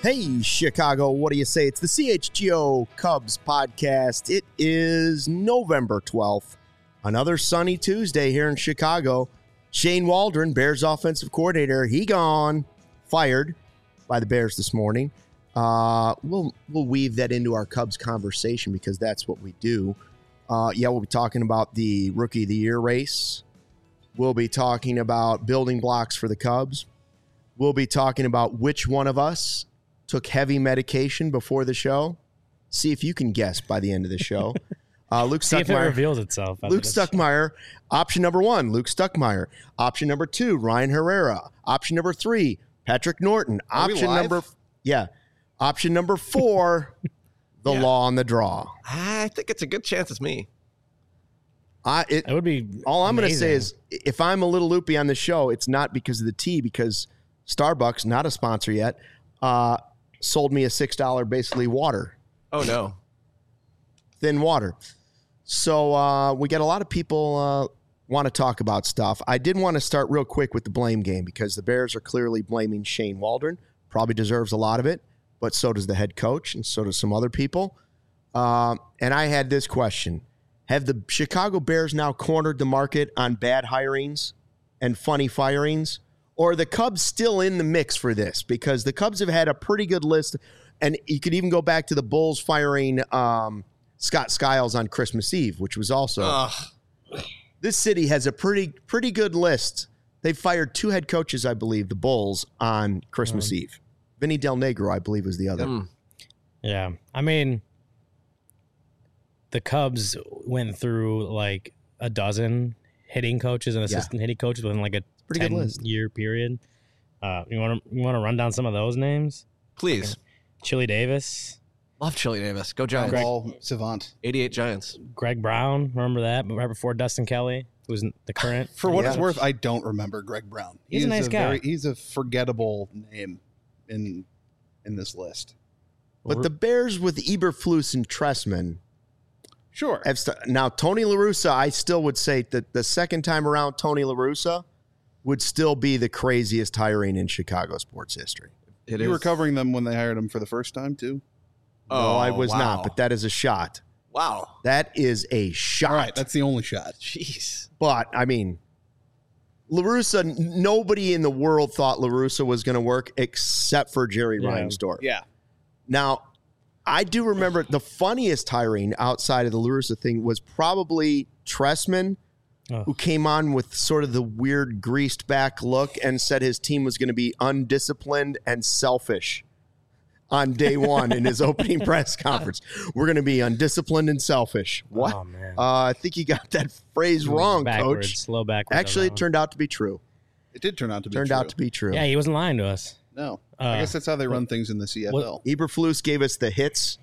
Hey, Chicago, what do you say? It's the CHGO Cubs podcast. It is November 12th, another sunny Tuesday here in Chicago. Shane Waldron, Bears offensive coordinator, he gone, fired by the Bears this morning. We'll weave that into our Cubs conversation because that's what we do. We'll be talking about the Rookie of the Year race. We'll be talking about building blocks for the Cubs. We'll be talking about which one of us took heavy medication before the show. See if you can guess by the end of the show. Luke See Stuckmeyer. if it reveals itself. Luke Stuckmeyer. Option number 1, Luke Stuckmeyer. Option number 2, Ryan Herrera. Option number 3, Patrick Norton. Option number 4, the law on the draw. I think it's a good chance it's me. It would be all I'm going to say amazing. is if I'm a little loopy on the show, it's not because of the tea, because Starbucks, not a sponsor yet, sold me a $6 basically water. Oh, no. Thin water. So we got a lot of people want to talk about stuff. I did want to start real quick with the blame game because the Bears are clearly blaming Shane Waldron. Probably deserves a lot of it, but so does the head coach and so does some other people. And I had this question. Have the Chicago Bears now cornered the market on bad hirings and funny firings? Or are the Cubs still in the mix for this? Because the Cubs have had a pretty good list, and you could even go back to the Bulls firing Scott Skiles on Christmas Eve, which was also this city has a pretty good list. They fired 2 head coaches, I believe, the Bulls on Christmas Eve. Vinny Del Negro, I believe, was the other. Yeah. I mean, the Cubs went through like a dozen hitting coaches and assistant hitting coaches within like a pretty good list. 10-year period. You want to run down some of those names? Please. Okay. Chili Davis. Love Chili Davis. Go Giants. Ball savant. 88 Giants. Greg Brown. Remember that? Right before Dustin Kelly, who was the current. For what it's worth, I don't remember Greg Brown. He's a nice guy. He's a forgettable name in this list. But the Bears with Eberflus and Tressman. Sure. Now, Tony La Russa, I still would say that the second time around, Tony La Russa would still be the craziest hiring in Chicago sports history. You were covering them when they hired him for the first time, too? No, I was not, but that is a shot. Wow. That is a shot. All right, that's the only shot. Jeez. But, I mean, La Russa, nobody in the world thought La Russa was going to work except for Jerry Reinsdorf. Yeah. Now, I do remember the funniest hiring outside of the La Russa thing was probably Tressman, who came on with sort of the weird greased back look and said his team was going to be undisciplined and selfish on day one in his opening press conference. We're going to be undisciplined and selfish. What? Oh, man. I think you got that phrase wrong, backwards, Coach. Slow backwards. Actually, it turned out to be true. It did turn out to be Turned true. out to be true. Yeah, he wasn't lying to us. No. I guess that's how they run things in the CFL. Eberflus gave us the hits.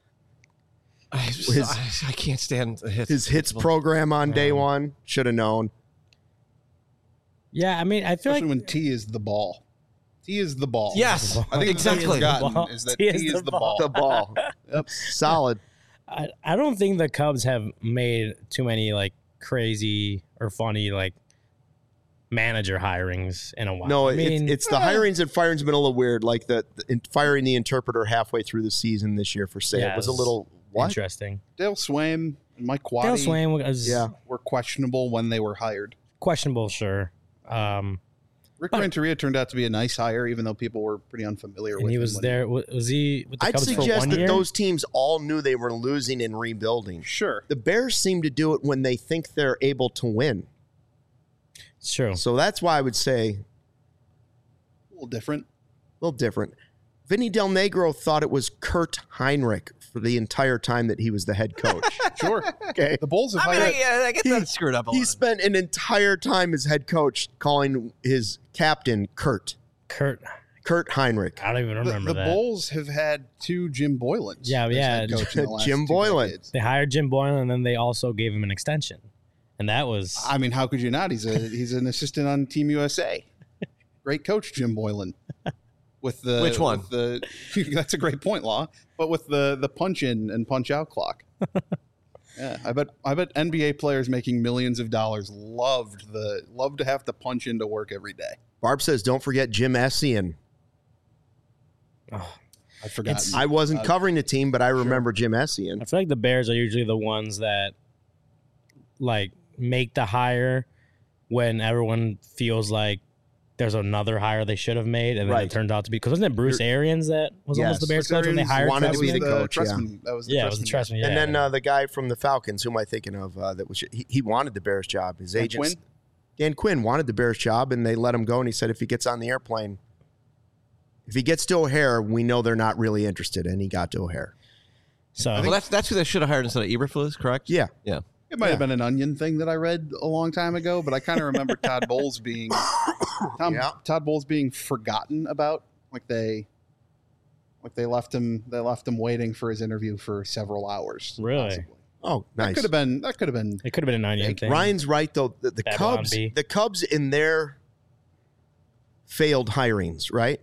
I can't stand the hits. His hits program on day one. Should have known. Yeah, I mean, I feel Especially like when T is the ball. T is the ball. Yes. I think Exactly. exactly is that T is the ball. The ball. Yep. Solid. I don't think the Cubs have made too many like crazy or funny like manager hirings in a while. No, I mean, it's the hirings and firings have been a little weird. Like firing the interpreter halfway through the season this year for say it was a little interesting. Dale Swaim and Mike Quaddy Dale Swaim was were questionable when they were hired. Questionable, sure. Rick Renteria turned out to be a nice hire, even though people were pretty unfamiliar with him. And he was there. Was he with the I'd Cubs for suggest 1 that year? those teams all knew they were losing and rebuilding. Sure. The Bears seem to do it when they think they're able to win. It's true. So that's why I would say A little different. Vinny Del Negro thought it was Kurt Heinrich for the entire time that he was the head coach. Sure. Okay. The Bulls have I mean, hired... I get that screwed up a He lot. spent an entire time as head coach calling his captain Kurt Heinrich. I don't even remember the that. Bulls have had 2 Jim Boylans. Yeah, as yeah. head coach in the last Jim 2 Boylan. decades. They hired Jim Boylan, and then they also gave him an extension, and that was I mean, how could you not? He's an assistant on Team USA. Great coach, Jim Boylan. With the Which one? That's a great point, Law. But with the punch in and punch out clock. Yeah, I bet NBA players making millions of dollars loved to have to punch into work every day. Barb says, don't forget Jim Essien. I've forgotten. I wasn't covering the team, but I remember Jim Essien. I feel like the Bears are usually the ones that like make the hire when everyone feels like there's another hire they should have made, and then it turns out to be, because wasn't it Bruce Arians that was almost the Bears coach when they hired wanted to be the coach? That was the it was the Trestman. Yeah, and then the guy from the Falcons, who am I thinking of? That was he wanted the Bears job. His agent, Dan Quinn, wanted the Bears job, and they let him go. And he said if he gets on the airplane, if he gets to O'Hare, we know they're not really interested. And he got to O'Hare. So well, that's who they should have hired instead of Eberflus, correct? Yeah. It might have been an Onion thing that I read a long time ago, but I kind of remember Todd Bowles being Todd Bowles being forgotten about. Like they left him waiting for his interview for several hours. Really? Possibly. Oh, nice. That could have been. It could have been an Onion thing. Ryan's right though. The Cubs in their failed hirings, right,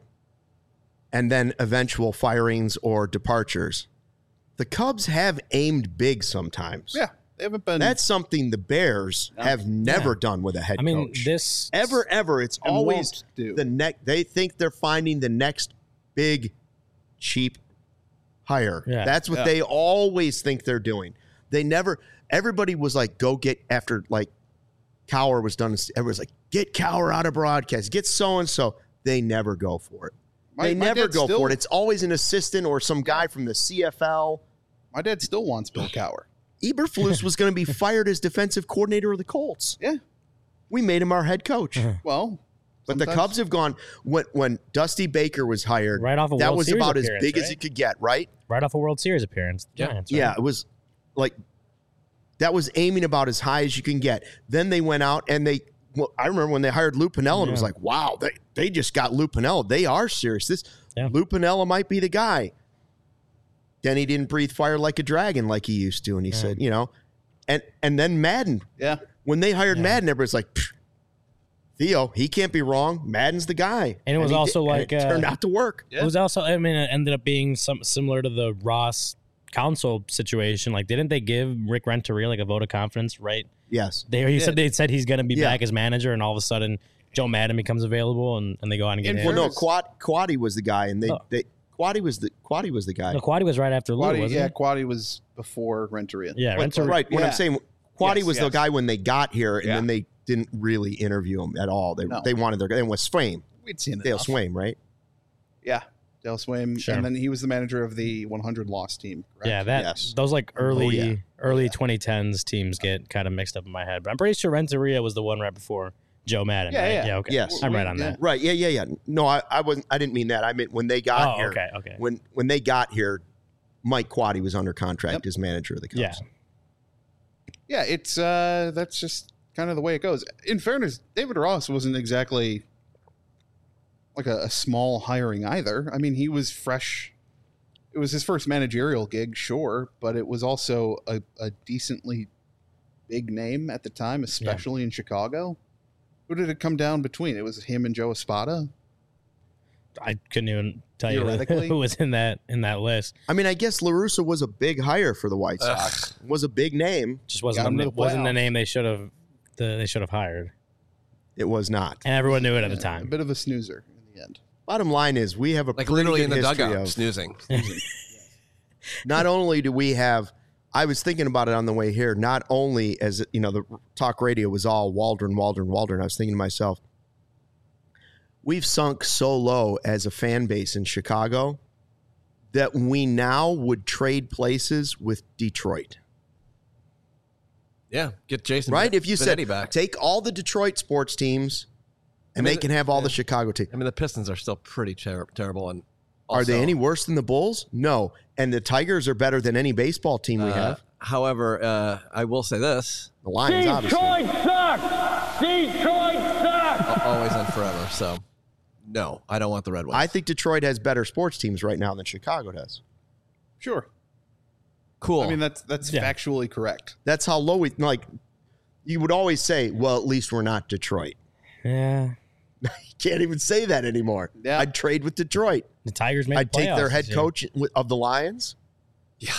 and then eventual firings or departures. The Cubs have aimed big sometimes. Yeah. They haven't been. That's something the Bears have never done with a head coach. This ever. It's always do. the next. They think they're finding the next big, cheap hire. Yeah. That's what they always think they're doing. They never. Everybody was like, go get after like Cowher was done. Everyone's like, get Cowher out of broadcast. Get so and so. They never go for it. They never go for it. It's always an assistant or some guy from the CFL. My dad still wants Bill Cowher. Eberflus was going to be fired as defensive coordinator of the Colts. Yeah. We made him our head coach. Well, but the Cubs have gone when Dusty Baker was hired. Right off a that World was Series about as appearance, big right? as it could get, right? Right off a World Series appearance. Giants, right? Yeah, it was like that was aiming about as high as you can get. Then they went out and I remember when they hired Lou Piniella, and it was like, wow, they just got Lou Piniella. They are serious. Lou Piniella might be the guy. Then he didn't breathe fire like a dragon like he used to, and he said, and then Madden. Yeah. When they hired Madden, everybody's like, Theo, he can't be wrong. Madden's the guy. And it was it turned out to work. Yeah. It was also, it ended up being similar to the Ross Council situation. Like, didn't they give Rick Renteria like a vote of confidence, right? Yes. They said he's going to be back as manager, and all of a sudden Joe Madden becomes available, and they go on and get him. Well, no, Quaddy was the guy, and Quaddy was the guy. No, Quaddy was right after Lou, wasn't he? Yeah, Quaddy was before Renteria. Yeah, Renteria. Right. What I'm saying, Quaddy was the guy when they got here, and then they didn't really interview him at all. They wanted their guy. And with Swaim. We'd seen it. Dale Swaim, right? Yeah. Dale Swaim. Sure. And then he was the manager of the 100 loss team. Correct? Yeah, those like early 2010s teams get kind of mixed up in my head. But I'm pretty sure Renteria was the one right before Joe Madden, right? Yeah, okay. Yes. I'm right on that. Right, yeah. No, I wasn't. I didn't mean that. I meant when they got here. Okay. When they got here, Mike Quaddy was under contract as manager of the Cubs. Yeah. Yeah, it's that's just kind of the way it goes. In fairness, David Ross wasn't exactly like a small hiring either. I mean, he was fresh. It was his first managerial gig, sure, but it was also a decently big name at the time, especially in Chicago. Who did it come down between? It was him and Joe Espada. I couldn't even tell you who was in that list. I mean, I guess La Russa was a big hire for the White Sox. Was a big name. Just wasn't the name they should have hired. It was not, and everyone knew it at the time. A bit of a snoozer in the end. Bottom line is, we have a like pretty literally good in the history dugout of snoozing. Not only do we have, I was thinking about it on the way here. Not only as the talk radio was all Waldron. I was thinking to myself, we've sunk so low as a fan base in Chicago that we now would trade places with Detroit. Yeah, get Jason right. If you said back. Take all the Detroit sports teams, and they can have all the Chicago teams. I mean, the Pistons are still pretty terrible. And are they any worse than the Bulls? No. And the Tigers are better than any baseball team we have. However, I will say this: the Lions, Detroit sucks. Detroit sucks. Always and forever. So, no, I don't want the Red Wings. I think Detroit has better sports teams right now than Chicago does. Sure. Cool. I mean, that's factually correct. That's how low we like. You would always say, "Well, at least we're not Detroit." Yeah. You can't even say that anymore. Yeah. I'd trade with Detroit. The Tigers made I'd the take their playoffs head this year. coach of the Lions. Yeah.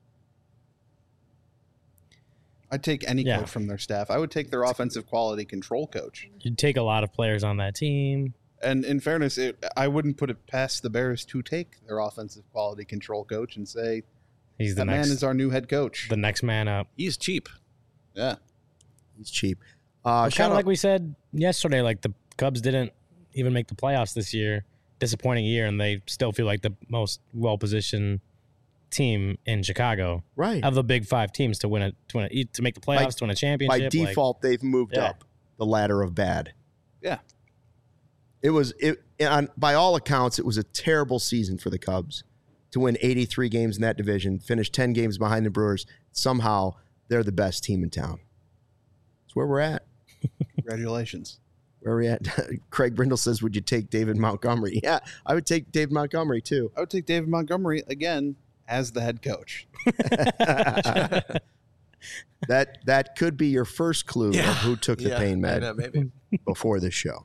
I'd take any coach from their staff. I would take their offensive quality control coach. You'd take a lot of players on that team. And in fairness, I wouldn't put it past the Bears to take their offensive quality control coach and say, he's the that next man is our new head coach. the next man up. He's cheap. Yeah. He's cheap. Kind Shout of out, like we said yesterday, like the Cubs didn't even make the playoffs this year. Disappointing year, and they still feel like the most well-positioned team in Chicago right. of the big 5 teams to make the playoffs, to win a championship. By default, they've moved Yeah. up the ladder of bad. Yeah. By all accounts, it was a terrible season for the Cubs to win 83 games in that division, finish 10 games behind the Brewers. Somehow, they're the best team in town. That's where we're at. Congratulations. Where are we at? Craig Brindle says, would you take David Montgomery? Yeah, I would take David Montgomery, too. I would take David Montgomery again as the head coach. That could be your first clue of who took the pain med maybe. before this show.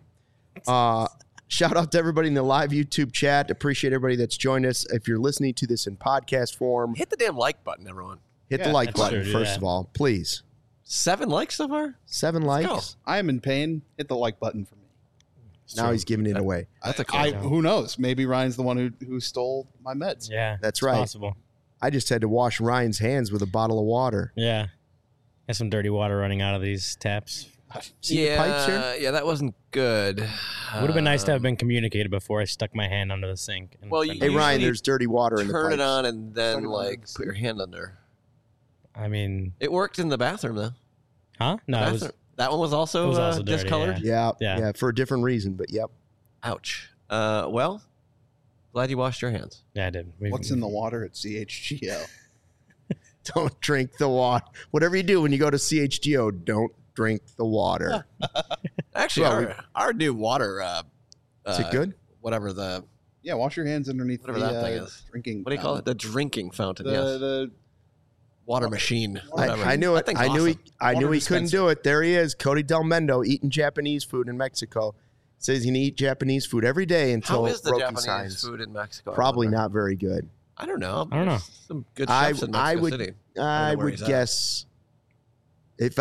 Shout out to everybody in the live YouTube chat. Appreciate everybody that's joined us. If you're listening to this in podcast form, Hit the damn like button, everyone. hit the like that's button, true, first yeah. of all, please. 7 likes so far? 7 Let's likes. I am in pain. Hit the like button for me. Now he's giving it away. That's a cool. Who knows? Maybe Ryan's the one who stole my meds. Yeah, That's it's right. possible. I just had to wash Ryan's hands with a bottle of water. Yeah, there's some dirty water running out of these taps. See the pipes here? Yeah, that wasn't good. Would have been nice to have been communicated before I stuck my hand under the sink. And Well, turned you- Hey, it on. Ryan, usually there's dirty water in the Turn pipes. it on and then Turn it on. like put your hand under. I mean, It worked in the bathroom though. huh? No, it was. Bathroom. That one was also, It was also dirty, discolored. Yeah, Yeah. for a different reason, but yep. Ouch. Well, glad you washed your hands. Yeah, I did. What's in the water at CHGO? Don't drink the water. Whatever you do when you go to CHGO, don't drink the water. Actually, Well, our new water. Is it good? Whatever the Yeah, wash your hands underneath Whatever the that thing is. drinking. what do you call it? The drinking fountain. yes. The Water machine. Whatever. I knew it. That thing's I knew awesome. I knew Water he couldn't dispenser. do it. There he is, Cody Del Mendo, eating Japanese food in Mexico. Says he's gonna eat Japanese food every day until How is the broken Japanese signs. food in Mexico? I Probably wonder. not very good. I don't know. I don't know. There's some good I- chefs in I Mexico would- City. I know where would he's at. guess if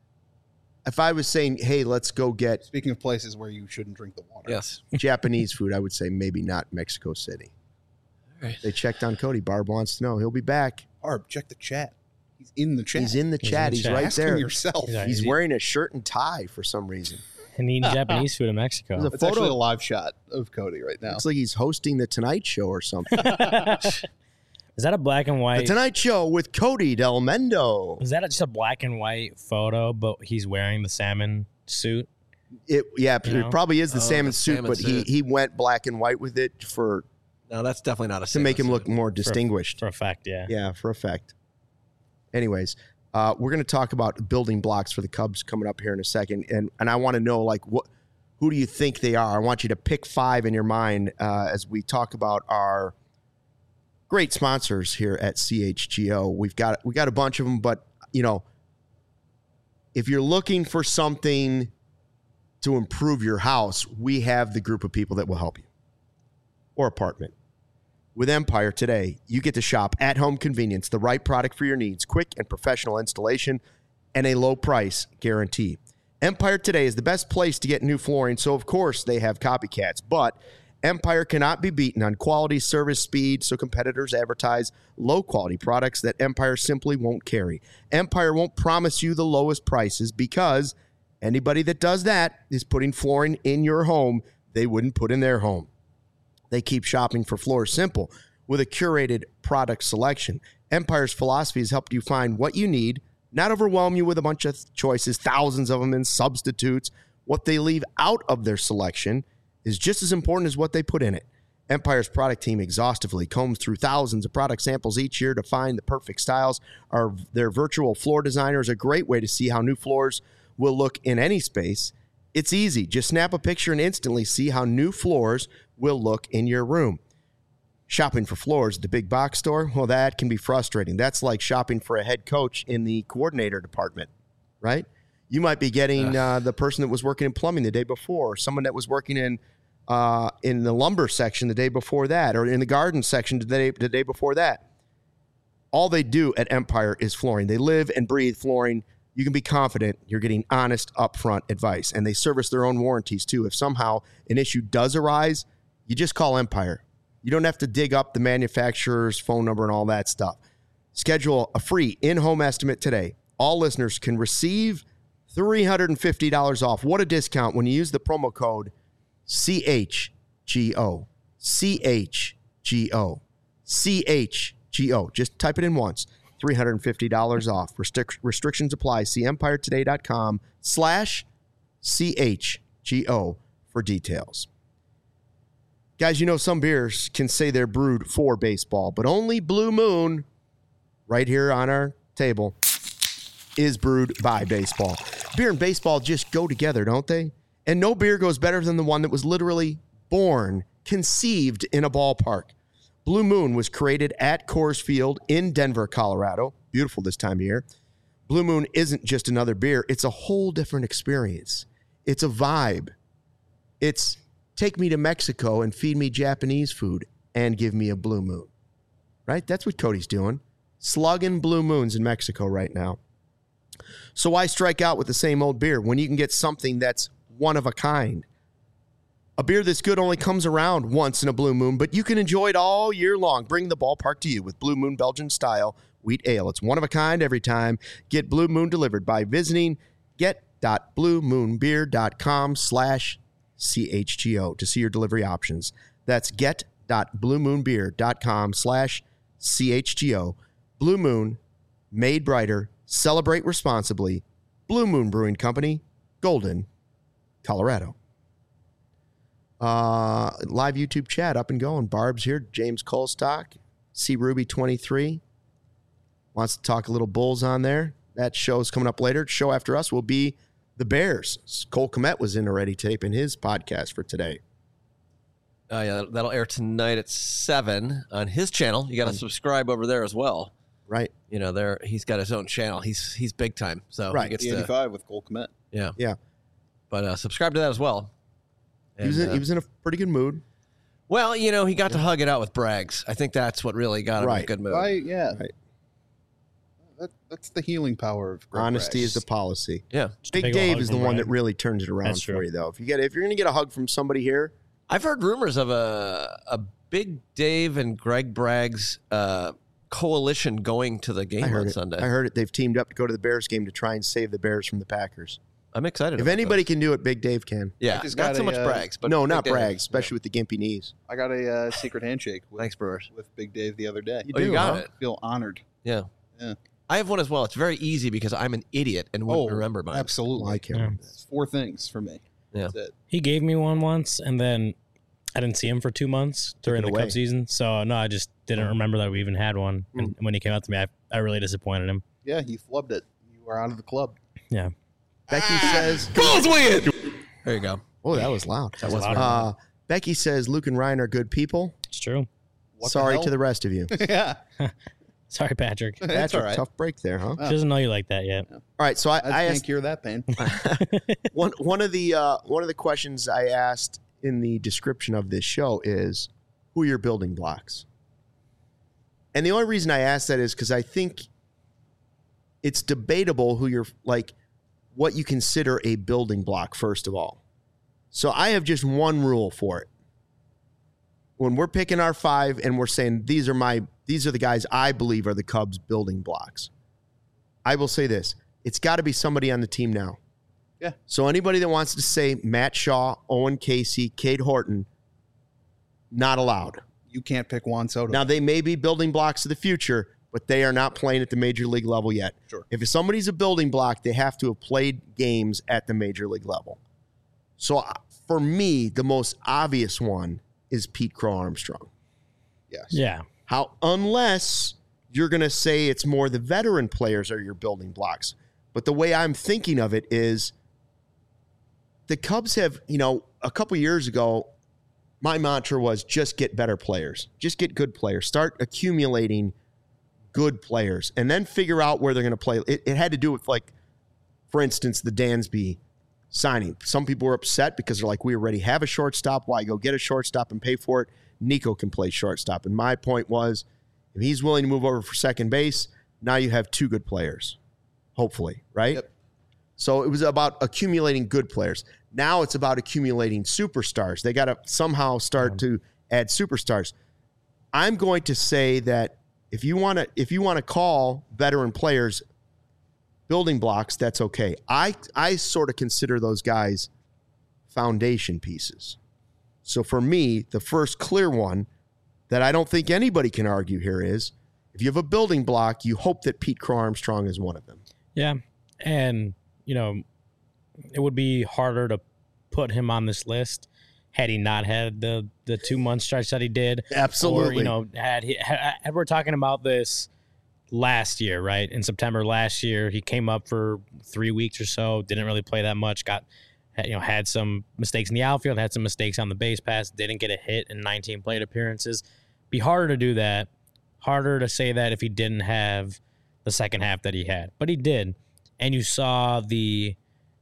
I was saying, hey, let's go get Speaking of places where you shouldn't drink the water. Yes. Japanese food, I would say maybe not Mexico City. All right. They checked on Cody. Barb wants to know. He'll be back. Barb, check the chat. He's in the chat. He's in the He's chat. in the He's chat. right Ask there. him yourself. Yeah. He's wearing a shirt and tie for some reason. and eating Japanese food in Mexico. There's a It's actually a photo. live shot of Cody right now. Looks like he's hosting the Tonight Show or something. Is that a black and The white? Tonight Show with Cody Del Mendo. Is that just a black and white photo, but he's wearing the salmon suit? It You know? it probably is the Oh, salmon the suit, salmon but suit. he went black and white with it for No, that's definitely not a to make him salmon look suit. more distinguished. For effect, yeah. Yeah, for effect. Anyways, we're going to talk about building blocks for the Cubs coming up here in a second, and I want to know who do you think they are? I want you to pick 5 in your mind as we talk about our great sponsors here at CHGO. We got a bunch of them, but if you're looking for something to improve your house, we have the group of people that will help you, or apartment. With Empire today, you get to shop at home convenience, the right product for your needs, quick and professional installation, and a low price guarantee. Empire today is the best place to get new flooring, so of course they have copycats, but Empire cannot be beaten on quality, service, speed, so competitors advertise low quality products that Empire simply won't carry. Empire won't promise you the lowest prices because anybody that does that is putting flooring in your home they wouldn't put in their home. They keep shopping for floors simple with a curated product selection. Empire's philosophy has helped you find what you need, not overwhelm you with a bunch of choices, thousands of them, and substitutes. What they leave out of their selection is just as important as what they put in it. Empire's product team exhaustively combs through thousands of product samples each year to find the perfect styles. Their virtual floor designer is a great way to see how new floors will look in any space. It's easy. Just snap a picture and instantly see how new floors will look in your room. Shopping for floors at the big box store, well, that can be frustrating. That's like shopping for a head coach in the coordinator department, right? You might be getting the person that was working in plumbing the day before, or someone that was working in the lumber section the day before that, or in the garden section the day before that. All they do at Empire is flooring. They live and breathe flooring. you can be confident you're getting honest, upfront advice. And they service their own warranties, too. If somehow an issue does arise, you just call Empire. You don't have to dig up the manufacturer's phone number and all that stuff. Schedule a free in-home estimate today. All listeners can receive $350 off. What a discount when you use the promo code CHGO. CHGO. CHGO. Just type it in once. $350 off. Restrictions apply. See EmpireToday.com/CHGO for details. Guys, you know some beers can say they're brewed for baseball, but only Blue Moon, right here on our table, is brewed by baseball. Beer and baseball just go together, don't they? And no beer goes better than the one that was literally born, conceived in a ballpark. Blue Moon was created at Coors Field in Denver, Colorado. Beautiful this time of year. Blue Moon isn't just another beer. It's a whole different experience. It's a vibe. It's take me to Mexico and feed me Japanese food and give me a Blue Moon. Right? That's what Cody's doing. Slugging Blue Moons in Mexico right now. So why strike out with the same old beer when you can get something that's one of a kind? A beer this good only comes around once in a Blue Moon, but you can enjoy it all year long. Bring the ballpark to you with Blue Moon Belgian style wheat ale. It's one of a kind every time. Get Blue Moon delivered by visiting get.bluemoonbeer.com/CHGO to see your delivery options. That's get.bluemoonbeer.com/CHGO. Blue Moon, made brighter. Celebrate responsibly. Blue Moon Brewing Company, Golden, Colorado. Live YouTube chat up and going. Barb's here. James Colstock. C Ruby 23 wants to talk a little Bulls on there. That show's coming up later. Show after us will be the Bears. Cole Kmet was in already taping his podcast for today. Yeah, that'll air tonight at 7 on his channel. You got to subscribe over there as well. Right. You know, he's got his own channel. He's big time. So right. He gets 85 with Cole Kmet. Yeah. Yeah. But subscribe to that as well. And, he was in a pretty good mood. Well, you know, he got to hug it out with Braggs. I think that's what really got him in a good mood. Right. That's the healing power of Greg honesty Braggs. is the policy. Yeah. Big Dave is the one that really turns it around That's for true. you, though. If you're going to get a hug from somebody here, I've heard rumors of a Big Dave and Greg Braggs coalition going to the game on Sunday. I heard it. They've teamed up to go to the Bears game to try and save the Bears from the Packers. I'm excited. If anybody can do it, Big Dave can. Yeah, just not got so a, much Braggs, but no, Big not Dave. Braggs, especially with the gimpy knees. I got a secret handshake Thanks, Brewers. with Big Dave the other day. You got it. I feel honored. Yeah. Yeah. I have one as well. It's very easy because I'm an idiot and wouldn't remember mine. Absolutely. I can't Yeah. remember. It's 4 things for me. Yeah. That's it. He gave me one once, and then I didn't see him for 2 months during it the away. Cub season. So, no, I just didn't remember that we even had one. And when he came out to me, I really disappointed him. Yeah, he flubbed it. You were out of the club. Yeah. Becky says, Bulls win! There you go. oh, that was loud. That was loud. Becky says, Luke and Ryan are good people. It's true. What Sorry the hell? to the rest of you. Yeah. Sorry, Patrick. That's That's all a right. tough break there, huh? She doesn't know you like that yet. All right, so I I asked can't cure that pain. one of the questions I asked in the description of this show is, who are your building blocks? And the only reason I asked that is because I think it's debatable who you're like, what you consider a building block, first of all. So I have just one rule for it. When we're picking our 5 and we're saying these are the guys I believe are the Cubs building blocks, I will say this. It's got to be somebody on the team now. Yeah. So anybody that wants to say Matt Shaw, Owen Casey, Cade Horton, not allowed. You can't pick Juan Soto. Now, they may be building blocks of the future, but they are not playing at the major league level yet. Sure. If somebody's a building block, they have to have played games at the major league level. So for me, the most obvious one is Pete Crow Armstrong. Yes. Yeah. Unless you're going to say it's more the veteran players are your building blocks. But the way I'm thinking of it is the Cubs have, a couple years ago, my mantra was just get better players. Just get good players. Start accumulating good players and then figure out where they're going to play. It had to do with, like, for instance, the Dansby signing. Some people were upset because they're like, we already have a shortstop. Why go get a shortstop and pay for it? Nico can play shortstop. And my point was, if he's willing to move over for second base, now you have 2 good players. hopefully, right? Yep. So it was about accumulating good players. Now it's about accumulating superstars. They got to somehow start to add superstars. I'm going to say that if you want to call veteran players building blocks, that's okay. I sort of consider those guys foundation pieces. So for me, the first clear one that I don't think anybody can argue here is if you have a building block, you hope that Pete Crow Armstrong is one of them. Yeah. And, it would be harder to put him on this list had he not had the 2 month stretch that he did. Absolutely. Or, had we're talking about this last year, right? In September last year, he came up for 3 weeks or so, didn't really play that much, had some mistakes in the outfield, had some mistakes on the base pass, didn't get a hit in 19 plate appearances. Be harder to do that, harder to say that if he didn't have the second half that he had. But he did. And you saw the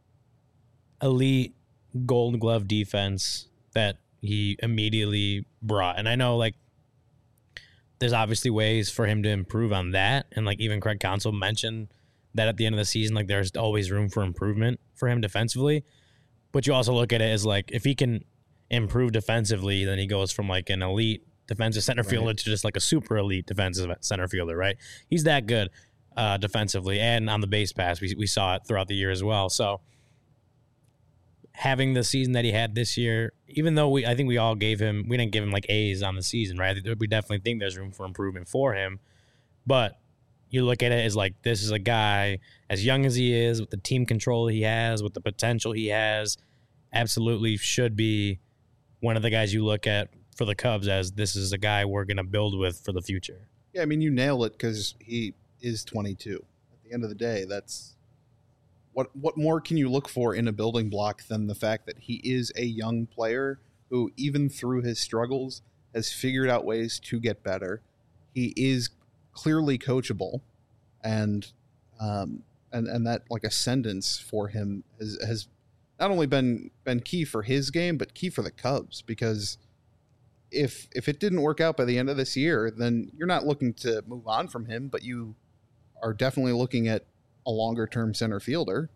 elite Gold Glove defense that he immediately brought. And I know, there's obviously ways for him to improve on that. And, even Craig Counsell mentioned that at the end of the season, there's always room for improvement for him defensively. But you also look at it as, if he can improve defensively, then he goes from, an elite defensive center fielder to just, a super elite defensive center fielder, right? He's that good defensively. And on the base pass, we saw it throughout the year as well. So having the season that he had this year, even though I think we didn't give him A's on the season, right? We definitely think there's room for improvement for him. But you look at it as this is a guy, as young as he is, with the team control he has, with the potential he has, absolutely should be one of the guys you look at for the Cubs as this is a guy we're going to build with for the future. Yeah, I mean, you nail it because he is 22. At the end of the day, that's what more can you look for in a building block than the fact that he is a young player who, even through his struggles, has figured out ways to get better. He is clearly coachable, and that ascendance for him has not only been key for his game, but key for the Cubs, because if it didn't work out by the end of this year, then you're not looking to move on from him, but you are definitely looking at a longer term center fielder.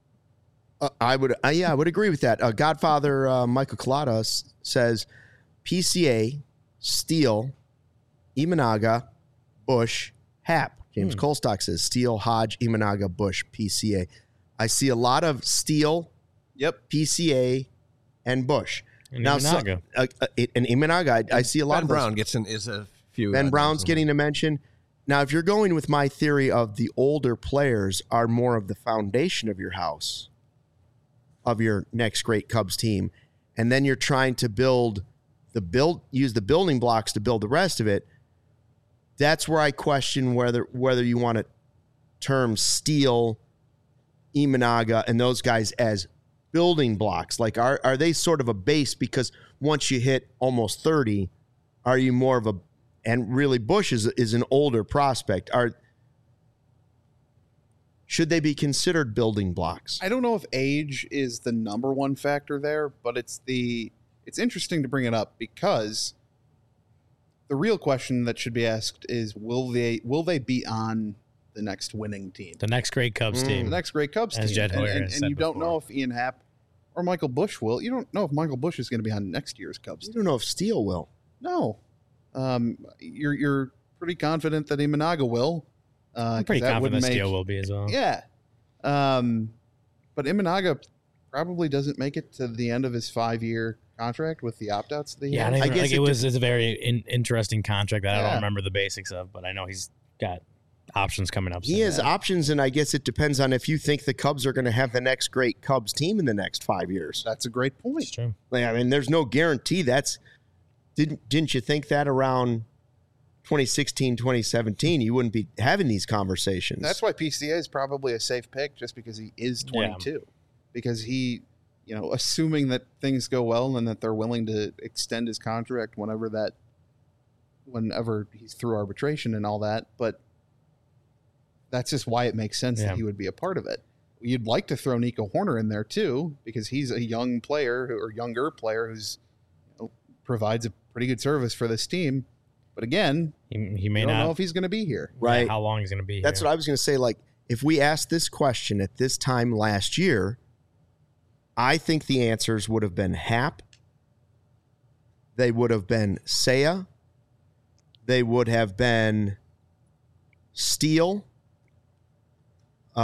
I would agree with that. Godfather Michael Collada says PCA, Steele, Imanaga, Bush, Happ. James Colstock says Steele, Hodge, Imanaga, Bush, PCA. I see a lot of Steele, PCA, and Bush. And now, Imanaga. Imanaga, I see a lot of Brown is a few. Ben Brown's getting a mention. Now, if you're going with my theory of the older players are more of the foundation of your house, of your next great Cubs team, and then you're trying to use the building blocks to build the rest of it, that's where I question whether you want to term Steele, Imanaga, and those guys as building blocks. Are they sort of a base because once you hit almost 30, are you more of a, and really Bush is an older prospect. Should they be considered building blocks? I don't know if age is the number one factor there, but it's interesting to bring it up because the real question that should be asked is will they be on the next winning team? The next great Cubs team. The next great Cubs As team. Jed Hoyer and said you don't before. know if Ian Happ or Michael Bush will. You don't know if Michael Bush is going to be on next year's Cubs You team. don't know if Steele will. No. You're pretty confident that Imanaga will. I'm pretty confident that Steele will be as well. Yeah. But Imanaga probably doesn't make it to the end of his 5-year contract with the opt-outs that he Yeah, has. I guess it's a very interesting contract that I Yeah. don't remember the basics of, but I know he's got options coming up. He has options, and I guess it depends on if you think the Cubs are going to have the next great Cubs team in the next 5 years. That's a great point. It's true. I mean, there's no guarantee. Didn't you think that around 2016, 2017, you wouldn't be having these conversations? That's why PCA is probably a safe pick, just because he is 22. Because he, assuming that things go well and that they're willing to extend his contract whenever he's through arbitration and all that. But that's just why it makes sense that he would be a part of it. You'd like to throw Nico Horner in there too, because he's a young player or younger player who's provides a pretty good service for this team. But again, he may don't not know if he's going to be here. Right. how long he's going to be That's here. what I was going to say. if we asked this question at this time last year, I think the answers would have been Hap. They would have been Seiya. They would have been Steele. Who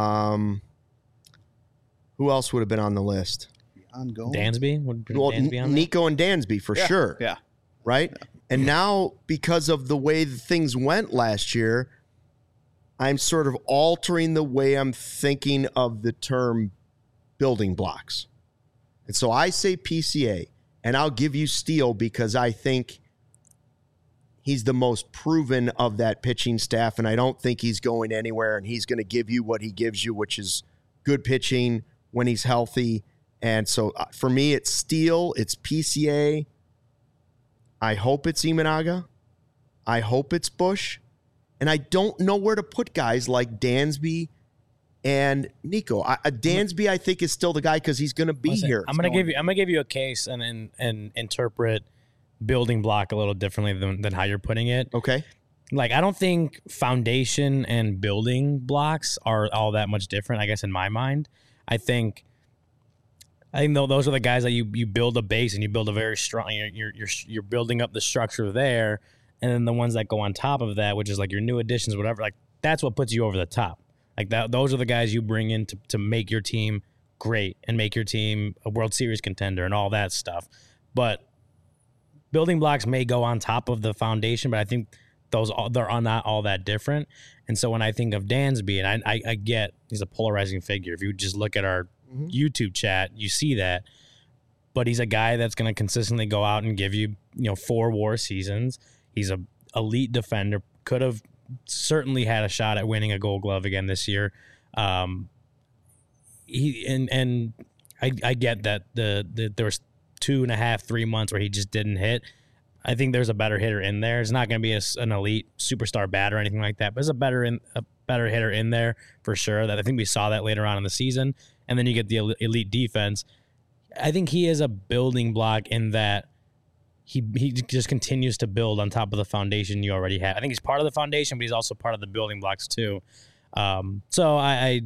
else would have been on the list? Dansby? Would Dansby on Nico and Dansby for sure. Yeah. Right? Yeah. And now, because of the way things went last year, I'm sort of altering the way I'm thinking of the term building blocks. And so I say PCA, and I'll give you Steele because I think he's the most proven of that pitching staff, and I don't think he's going anywhere, and he's going to give you what he gives you, which is good pitching when he's healthy. And so for me, it's Steele, it's PCA. I hope it's Imanaga. I hope it's Bush. And I don't know where to put guys like Dansby and Nico. Dansby, I think, is still the guy because he's going to be here. I'm going to give you a case and interpret building block a little differently than how you're putting it. Okay. Like, I don't think foundation and building blocks are all that much different, I guess, in my mind. I think those are the guys that you build a base and you build a very strong. You're building up the structure there, and then the ones that go on top of that, which is like your new additions, whatever. Like, that's what puts you over the top. Like that, those are the guys you bring in to make your team great and make your team a World Series contender and all that stuff. But building blocks may go on top of the foundation, but I think they're not all that different. And so when I think of Dansby, and I get he's a polarizing figure. If you just look at our YouTube chat, you see that. But he's a guy that's going to consistently go out and give you 4 WAR seasons. He's a elite defender. Could have certainly had a shot at winning a Gold Glove again this year. I get that there was 2.5, 3 months where he just didn't hit. I think there's a better hitter in there. It's not going to be an elite superstar bat or anything like that, but there's a better hitter in there for sure. That I think we saw that later on in the season. And then you get the elite defense. I think he is a building block in that he just continues to build on top of the foundation you already have. I think he's part of the foundation, but he's also part of the building blocks too. So I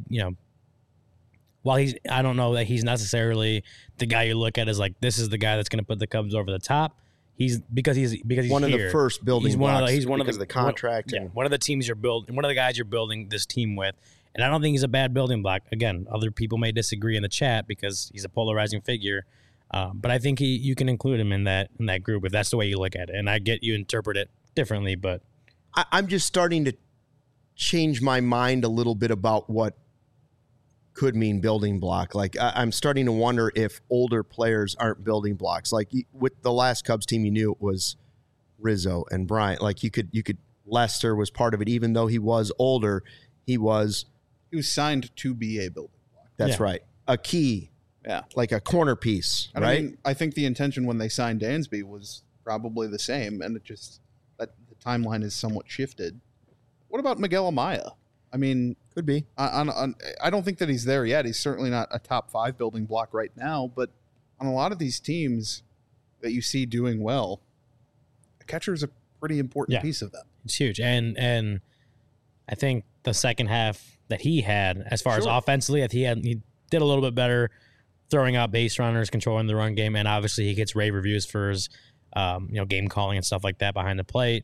while I don't know that he's necessarily the guy you look at as like, this is the guy that's going to put the Cubs over the top. He's one of the first building blocks. He's one of the contract. One of the teams you're building. One of the guys you're building this team with. And I don't think he's a bad building block. Again, other people may disagree in the chat because he's a polarizing figure. But I think you can include him in that group if that's the way you look at it. And I get you interpret it differently, but I'm just starting to change my mind a little bit about what could mean building block. Like I'm starting to wonder if older players aren't building blocks. Like with the last Cubs team, you knew it was Rizzo and Bryant. Like you could Lester was part of it, even though he was older. He was signed to be a building block. That's right. A key. Yeah. Like a corner piece, right? I mean, I think the intention when they signed Dansby was probably the same, and it just that the timeline is somewhat shifted. What about Miguel Amaya? I mean, could be. I don't think that he's there yet. He's certainly not a top 5 building block right now, but on a lot of these teams that you see doing well, a catcher is a pretty important piece of them. It's huge. And I think the second half that he had, as far as offensively, he did a little bit better throwing out base runners, controlling the run game, and obviously he gets rave reviews for his game calling and stuff like that behind the plate.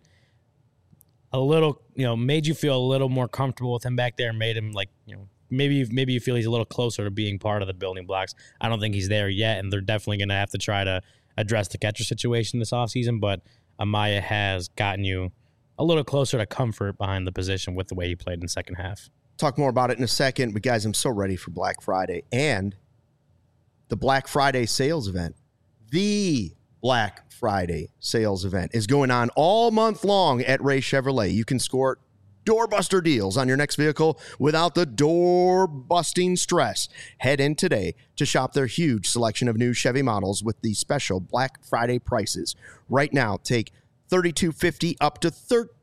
A little, made you feel a little more comfortable with him back there, and made him like, maybe you feel he's a little closer to being part of the building blocks. I don't think he's there yet, and they're definitely going to have to try to address the catcher situation this offseason, but Amaya has gotten you a little closer to comfort behind the position with the way he played in the second half. Talk more about it in a second, but guys, I'm so ready for Black Friday and the Black Friday sales event. The Black Friday sales event is going on all month long at Ray Chevrolet. You can score doorbuster deals on your next vehicle without the door-busting stress. Head in today to shop their huge selection of new Chevy models with the special Black Friday prices. Right now, take $3,250 up to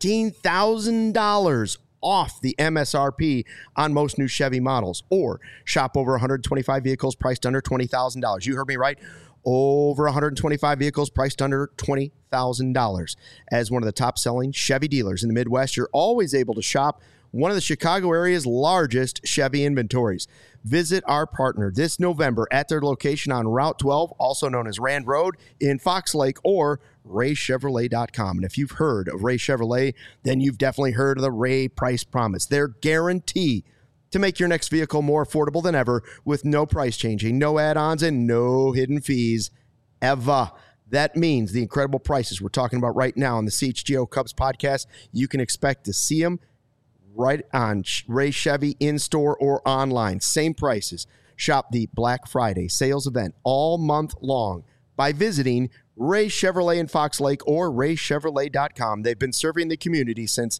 $13,000 off the MSRP on most new Chevy models, or shop over 125 vehicles priced under $20,000. You heard me right. Over 125 vehicles priced under $20,000. As one of the top-selling Chevy dealers in the Midwest, you're always able to shop one of the Chicago area's largest Chevy inventories. Visit our partner this November at their location on Route 12, also known as Rand Road in Fox Lake, or RayChevrolet.com. And if you've heard of Ray Chevrolet, then you've definitely heard of the Ray Price Promise. Their guarantee to make your next vehicle more affordable than ever with no price changing, no add-ons, and no hidden fees ever. That means the incredible prices we're talking about right now on the CHGO Cubs podcast, you can expect to see them right on Ray Chevy in-store or online. Same prices. Shop the Black Friday sales event all month long by visiting Ray Chevrolet in Fox Lake or RayChevrolet.com. They've been serving the community since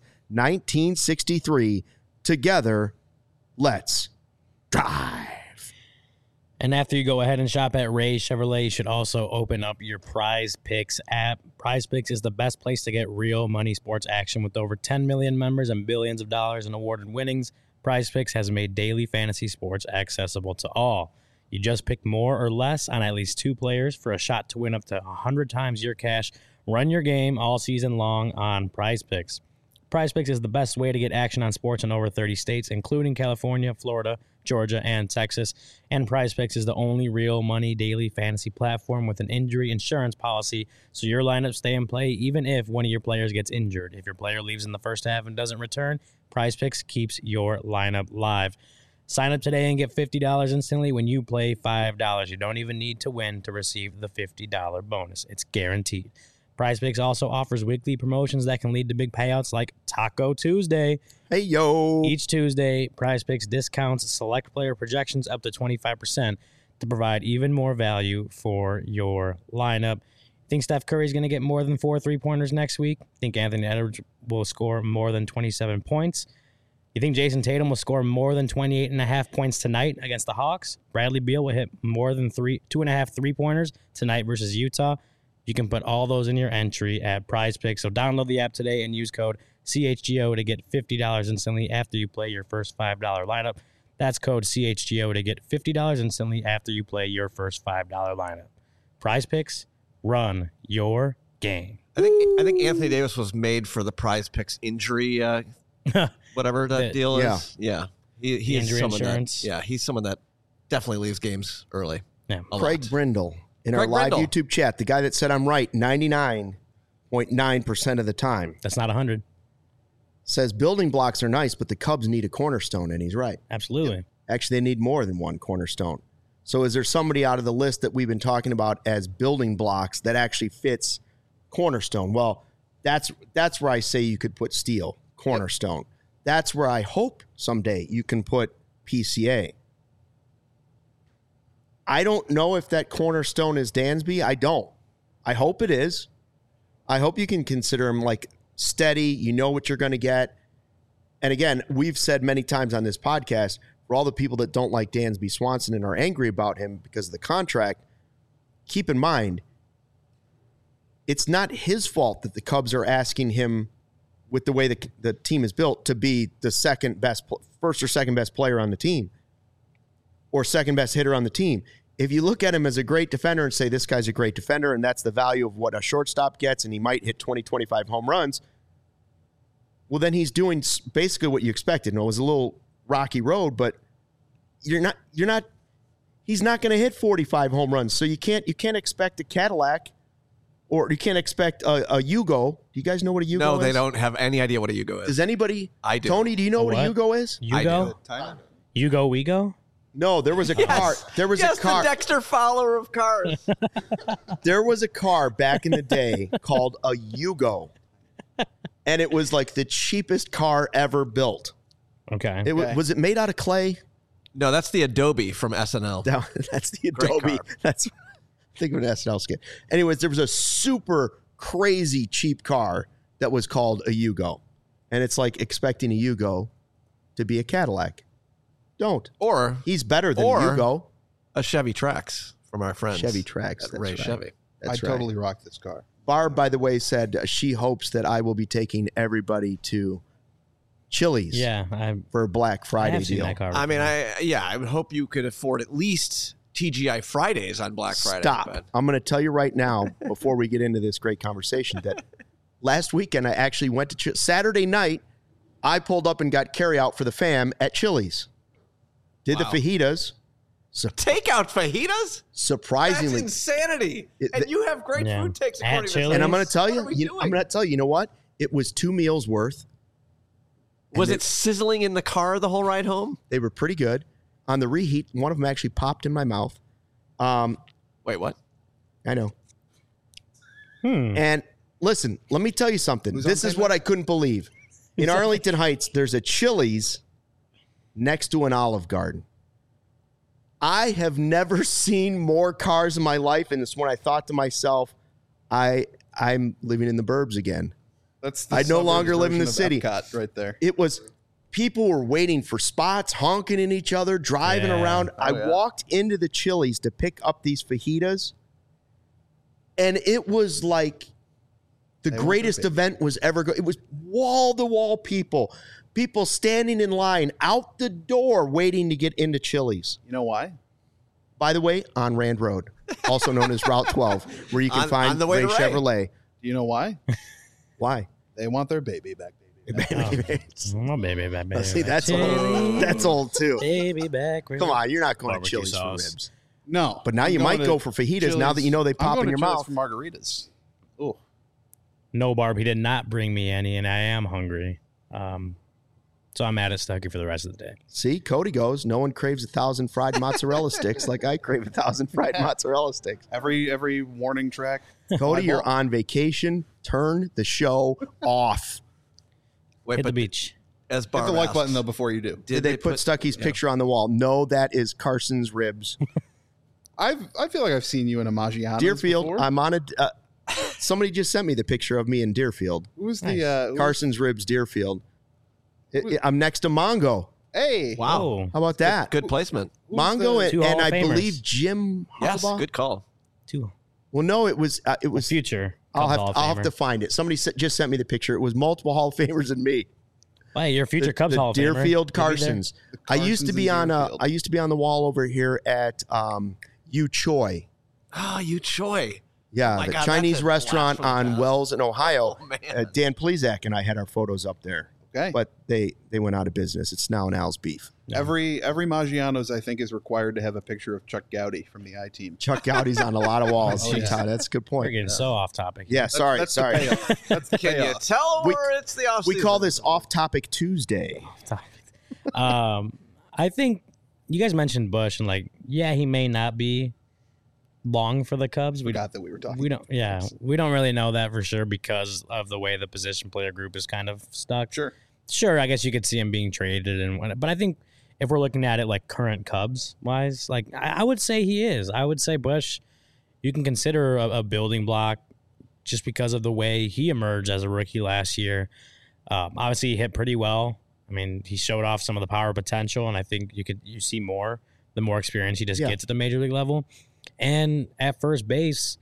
1963. Together, let's drive. And after you go ahead and shop at Ray Chevrolet, you should also open up your Prize Picks app. Prize Picks is the best place to get real money sports action with over 10 million members and billions of dollars in awarded winnings. Prize Picks has made daily fantasy sports accessible to all. You just pick more or less on at least 2 players for a shot to win up to 100 times your cash. Run your game all season long on Prize Picks. Prize Picks is the best way to get action on sports in over 30 states, including California, Florida, Georgia, and Texas. And Prize Picks is the only real money daily fantasy platform with an injury insurance policy, so your lineups stay in play even if one of your players gets injured. If your player leaves in the first half and doesn't return, Prize Picks keeps your lineup live. Sign up today and get $50 instantly when you play $5. You don't even need to win to receive the $50 bonus. It's guaranteed. Prize Picks also offers weekly promotions that can lead to big payouts like Taco Tuesday. Hey, yo. Each Tuesday, Prize Picks discounts select player projections up to 25% to provide even more value for your lineup. Think Steph Curry's going to get more than 4 3-pointers next week? Think Anthony Edwards will score more than 27 points? You think Jason Tatum will score more than 28.5 points tonight against the Hawks? Bradley Beal will hit more than 2.5 3-pointers tonight versus Utah? You can put all those in your entry at Prize Picks. So download the app today and use code CHGO to get $50 instantly after you play your first $5 lineup. That's code CHGO to get $50 instantly after you play your first $5 lineup. Prize Picks, run your game. I think Anthony Davis was made for the Prize Picks injury, whatever that deal is. Yeah. He is injury insurance. He's someone that definitely leaves games early. Yeah. Craig Brindle. In our live YouTube chat, the guy that said I'm right 99.9% of the time. That's not 100. Says building blocks are nice, but the Cubs need a cornerstone, and he's right. Absolutely. Yep. Actually, they need more than one cornerstone. So is there somebody out of the list that we've been talking about as building blocks that actually fits cornerstone? Well, that's where I say you could put Steele, cornerstone. Yep. That's where I hope someday you can put PCA. I don't know if that cornerstone is Dansby. I don't. I hope it is. I hope you can consider him like steady. You know what you're going to get. And again, we've said many times on this podcast, for all the people that don't like Dansby Swanson and are angry about him because of the contract, keep in mind, it's not his fault that the Cubs are asking him, with the way the team is built, to be the first or second best player on the team, or second best hitter on the team. If you look at him as a great defender and say this guy's a great defender and that's the value of what a shortstop gets and he might hit 20, 25 home runs, well, then he's doing basically what you expected. And it was a little rocky road, but he's not going to hit 45 home runs. So you can't expect a Cadillac, or you can't expect a Yugo. Do you guys know what a Yugo is? No, they don't have any idea what a Yugo is. Does anybody? I do. Tony, do you know what a Yugo is? Yugo? I do. Yugo, we go? No, there was a car. There was a car. The Dexter Fowler of cars. There was a car back in the day called a Yugo, and it was like the cheapest car ever built. Okay. Was it made out of clay? No, that's the Adobe from SNL. That's the Adobe. Think of an SNL skit. Anyways, there was a super crazy cheap car that was called a Yugo, and it's like expecting a Yugo to be a Cadillac. Don't. Or he's better than Yugo. A Chevy Trax from our friends. Chevy Trax. Ray right. Chevy. I totally rock this car. Barb, by the way, said she hopes that I will be taking everybody to Chili's. For a Black Friday deal. I mean, I would hope you could afford at least TGI Fridays on Black Friday. Stop. I'm going to tell you right now, before we get into this great conversation, that last weekend I actually went to Saturday night. I pulled up and got carryout for the fam at Chili's. Did the fajitas. Takeout fajitas? Surprisingly. That's insanity. And you have great food takes according to And I'm going to tell you, you know what? It was 2 meals worth. Was it sizzling in the car the whole ride home? They were pretty good. On the reheat, one of them actually popped in my mouth. Wait, what? I know. And listen, let me tell you something. This is what I couldn't believe. In Arlington Heights, there's a Chili's next to an Olive Garden. I have never seen more cars in my life, and this when I thought to myself, I'm living in the burbs again. I no longer live in the city. Epcot right there. It was people were waiting for spots, honking at each other, driving around. I walked into the Chili's to pick up these fajitas, and it was like the greatest event was ever. It was wall to wall people standing in line out the door waiting to get into Chili's. You know why? By the way, on Rand Road, also known as Route 12, where you can find Ray Chevrolet. Do you know why? Why? They want their baby back, baby. My baby back, baby. See, that's old. That's old too. Baby back. Come on, you're not going Barbecue to Chili's sauce. for ribs. No, But now you might go for fajitas Chili's. now that you know they pop in your mouth. For margaritas. Oh, No, Barb, he did not bring me any, and I am hungry. So I'm mad at Stuckey for the rest of the day. See, Cody goes, no one craves 1,000 fried mozzarella sticks like I crave 1,000 fried mozzarella sticks. every warning track. Cody, you're on vacation. Turn the show off. Wait, Hit the beach. As Hit Barb the like asked, button though before you do. Did they put Stuckey's picture on the wall? No, that is Carson's ribs. I feel like I've seen you in a Maggiano's Deerfield, before. I'm on a... somebody just sent me the picture of me in Deerfield. Who's the Carson's ribs, Deerfield. I'm next to Mongo. Hey, Wow. How about that? Good placement. Mongo Two and Hall I of Famers. believe Jim Yes, Harbaugh. good call. Two. Well, no, it was Future. I'll Cubs Hall of have Famer. to find it. Somebody just sent me the picture. It was multiple Hall of Famers and me. Hey, you're a future Cubs the Hall of Famer. Deerfield You'll be there. Carsons. I used to Carsons be in on Deerfield. I used to be on the wall over here at U Choi. Ah, you Choi. Yeah, Oh my the God, Chinese that's a restaurant blast from the on past. Wells in Ohio. Oh, man. Dan Plezak and I had our photos up there. Okay. But they went out of business. It's now an Al's Beef. Every Maggiano's I think is required to have a picture of Chuck Gowdy from the I Team. Chuck Gowdy's on a lot of walls. Oh, yeah. Todd, that's a good We're point. getting so off topic. Yeah, sorry. That's the sorry. payoff. That's the Can you payoff. tell We- where it's the off We call this Off Topic Tuesday. I think you guys mentioned Bush and he may not be long for the Cubs. We got that we were talking. We don't. Yeah, we don't really know that for sure because of the way the position player group is kind of stuck. Sure. I guess you could see him being traded but I think if we're looking at it like current Cubs wise, I would say he is. I would say Bush, you can consider a building block just because of the way he emerged as a rookie last year. Obviously, he hit pretty well. I mean, he showed off some of the power potential, and I think you see more the more experience he just gets at the major league level. And at first base,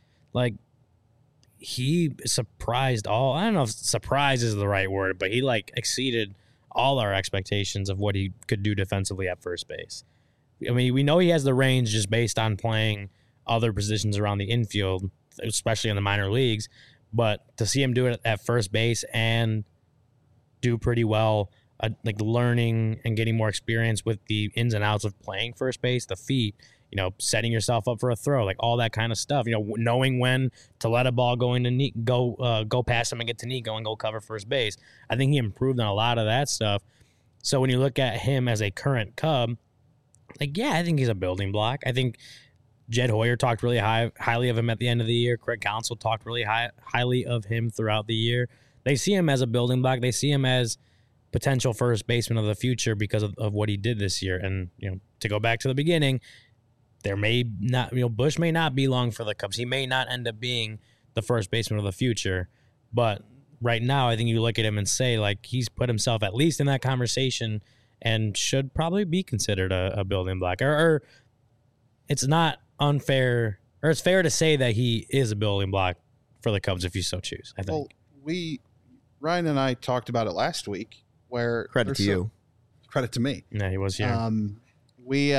he surprised all. I don't know if surprise is the right word, but he exceeded all our expectations of what he could do defensively at first base. I mean, we know he has the range just based on playing other positions around the infield, especially in the minor leagues. But to see him do it at first base and do pretty well, learning and getting more experience with the ins and outs of playing first base, the feet, setting yourself up for a throw, all that kind of stuff. Knowing when to let a ball go into go past him and get to Nico and go cover first base. I think he improved on a lot of that stuff. So when you look at him as a current Cub, I think he's a building block. I think Jed Hoyer talked really highly of him at the end of the year. Craig Counsell talked really highly of him throughout the year. They see him as a building block. They see him as potential first baseman of the future because of what he did this year. And, to go back to the beginning, there may not, Bush may not be long for the Cubs. He may not end up being the first baseman of the future. But right now, I think you look at him and say, he's put himself at least in that conversation and should probably be considered a building block. Or it's not unfair, or it's fair to say that he is a building block for the Cubs if you so choose, I think. Well, Ryan and I talked about it last week where Credit to you. Credit to me. Yeah, he was here. We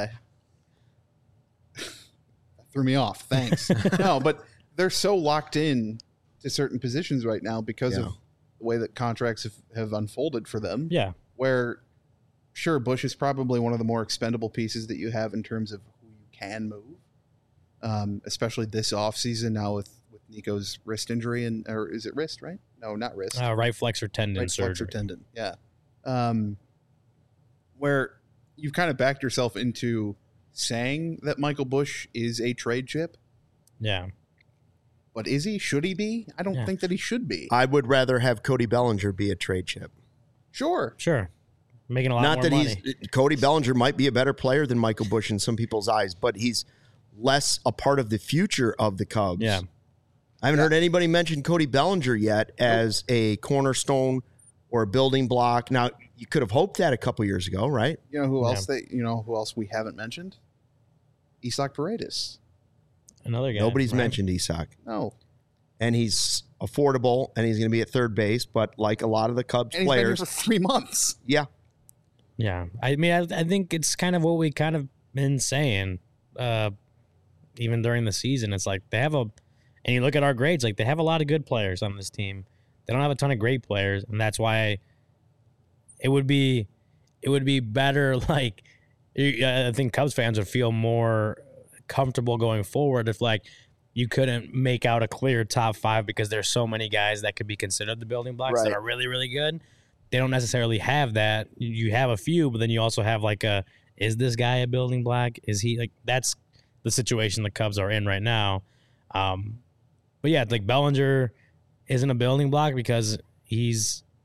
threw me off. Thanks. No, but they're so locked in to certain positions right now because of the way that contracts have unfolded for them. Yeah. Where, sure, Bush is probably one of the more expendable pieces that you have in terms of who you can move, especially this offseason now with Nico's wrist injury. Or is it wrist, right? No, not wrist. Right flexor tendon right surgery. Flexor tendon, yeah. Where you've kind of backed yourself into saying that Michael Bush is a trade chip. Yeah. But is he? Should he be? I don't think that he should be. I would rather have Cody Bellinger be a trade chip. Sure. Making a lot more money. Cody Bellinger might be a better player than Michael Bush in some people's eyes, but he's less a part of the future of the Cubs. Yeah. I haven't heard anybody mention Cody Bellinger yet as a cornerstone or a building block. Now, you could have hoped that a couple years ago, right? You know who else who else we haven't mentioned? Isaac Paredes. Another guy. Nobody's mentioned Isaac. No. And he's affordable, and he's going to be at third base, but like a lot of the Cubs and players. He's been here for 3 months. Yeah. Yeah. I mean, I think it's kind of what we kind of been saying even during the season. It's like they have and you look at our grades, like they have a lot of good players on this team. They don't have a ton of great players, and that's why it would be better. Like, I think Cubs fans would feel more comfortable going forward if like you couldn't make out a clear top 5 because there's so many guys that could be considered the building blocks that are really, really good. They don't necessarily have that. You have a few, but then you also have like is this guy a building block? Is he like, that's the situation the Cubs are in right now. But yeah, like Bellinger isn't a building block because he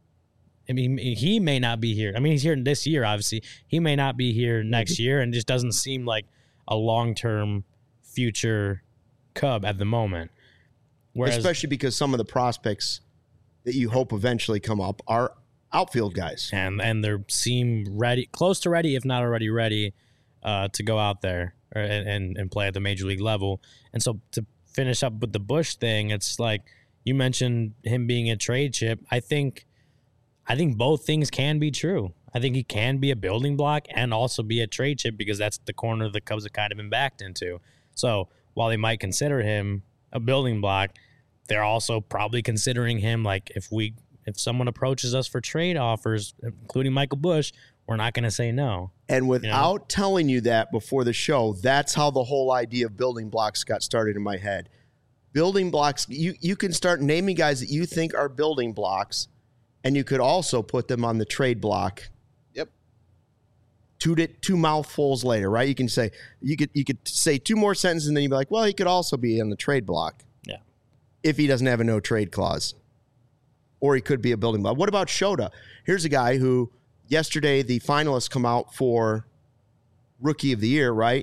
may not be here. I mean, he's here this year, obviously. He may not be here next year, and just doesn't seem like a long-term future Cub at the moment. Whereas, especially because some of the prospects that you hope eventually come up are outfield guys. And they seem ready, close to ready, if not already ready, to go out there and play at the major league level. And so to finish up with the Bush thing, it's like you mentioned him being a trade chip. I think both things can be true. I think he can be a building block and also be a trade chip because that's the corner the Cubs have kind of been backed into. So while they might consider him a building block, they're also probably considering him like if someone approaches us for trade offers, including Michael Bush, we're not going to say no. And without telling you that before the show, that's how the whole idea of building blocks got started in my head. Building blocks, you can start naming guys that you think are building blocks, and you could also put them on the trade block. Yep. Two mouthfuls later, right? You can say you could say 2 more sentences, and then you'd be like, well, he could also be on the trade block. Yeah. If he doesn't have a no trade clause. Or he could be a building block. What about Shota? Here's a guy who yesterday the finalists come out for Rookie of the Year, right?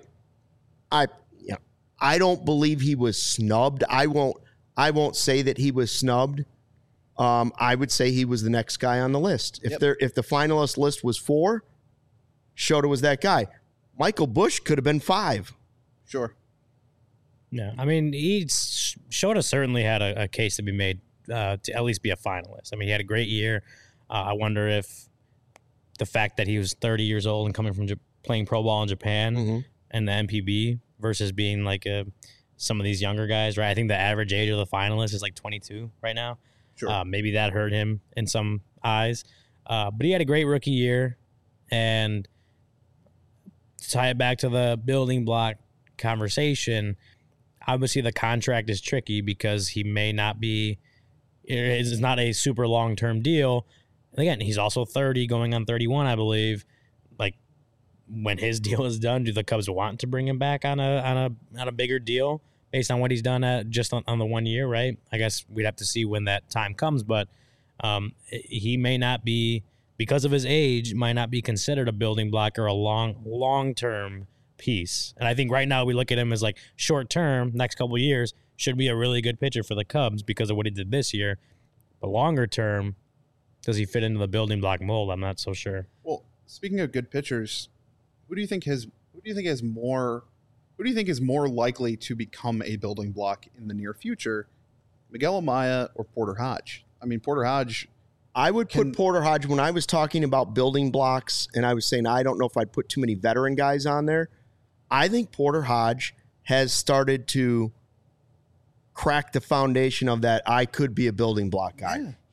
I don't believe he was snubbed. I won't say that he was snubbed. I would say he was the next guy on the list. If the finalist list was 4, Shota was that guy. Michael Bush could have been 5. Sure. Yeah, I mean, Shota certainly had a case to be made to at least be a finalist. I mean, he had a great year. I wonder if the fact that he was 30 years old and coming from playing pro ball in Japan and the MPB versus being like some of these younger guys, right? I think the average age of the finalist is like 22 right now. Sure. Maybe that hurt him in some eyes. But he had a great rookie year. And to tie it back to the building block conversation, obviously the contract is tricky because he may not be, it's not a super long-term deal. And again, he's also 30 going on 31, I believe. Like when his deal is done, do the Cubs want to bring him back on a bigger deal based on what he's done just on the 1 year, right? I guess we'd have to see when that time comes, but he may not be, because of his age, might not be considered a building block or a long-term piece. And I think right now we look at him as like short-term, next couple of years, should be a really good pitcher for the Cubs because of what he did this year. But longer term, does he fit into the building block mold? I'm not so sure. Well, speaking of good pitchers, who do you think is more likely to become a building block in the near future, Miguel Amaya or Porter Hodge? I mean, Porter Hodge. I would put Porter Hodge when I was talking about building blocks, and I was saying I don't know if I'd put too many veteran guys on there. I think Porter Hodge has started to crack the foundation of that I could be a building block guy.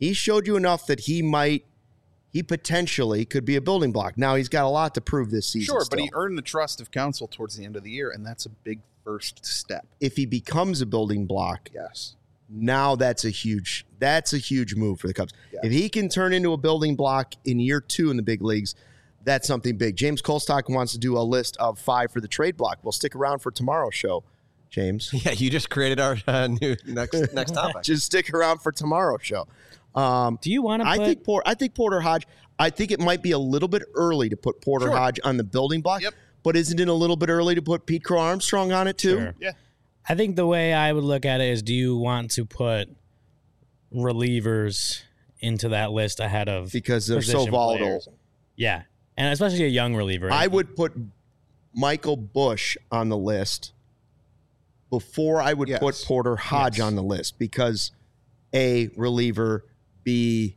He showed you enough that he potentially could be a building block. Now he's got a lot to prove this season. Sure, still. but he earned the trust of council towards the end of the year, and that's a big first step. If he becomes a building block, Yes. now that's a huge move for the Cubs. Yeah. If he can turn into a building block in year 2 in the big leagues, that's something big. James Colstock wants to do a list of 5 for the trade block. We'll stick around for tomorrow's show, James. Yeah, you just created our new next topic. Just stick around for tomorrow's show. Do you want to put... I think Porter Hodge, I think it might be a little bit early to put Porter Hodge on the building block. Yep. But isn't it a little bit early to put Pete Crow Armstrong on it too? Sure. Yeah. I think the way I would look at it is, do you want to put relievers into that list ahead of Because they're so position volatile. players? Yeah. And especially a young reliever. I would put Michael Busch on the list before I would put Porter Hodge on the list, because A, reliever, B,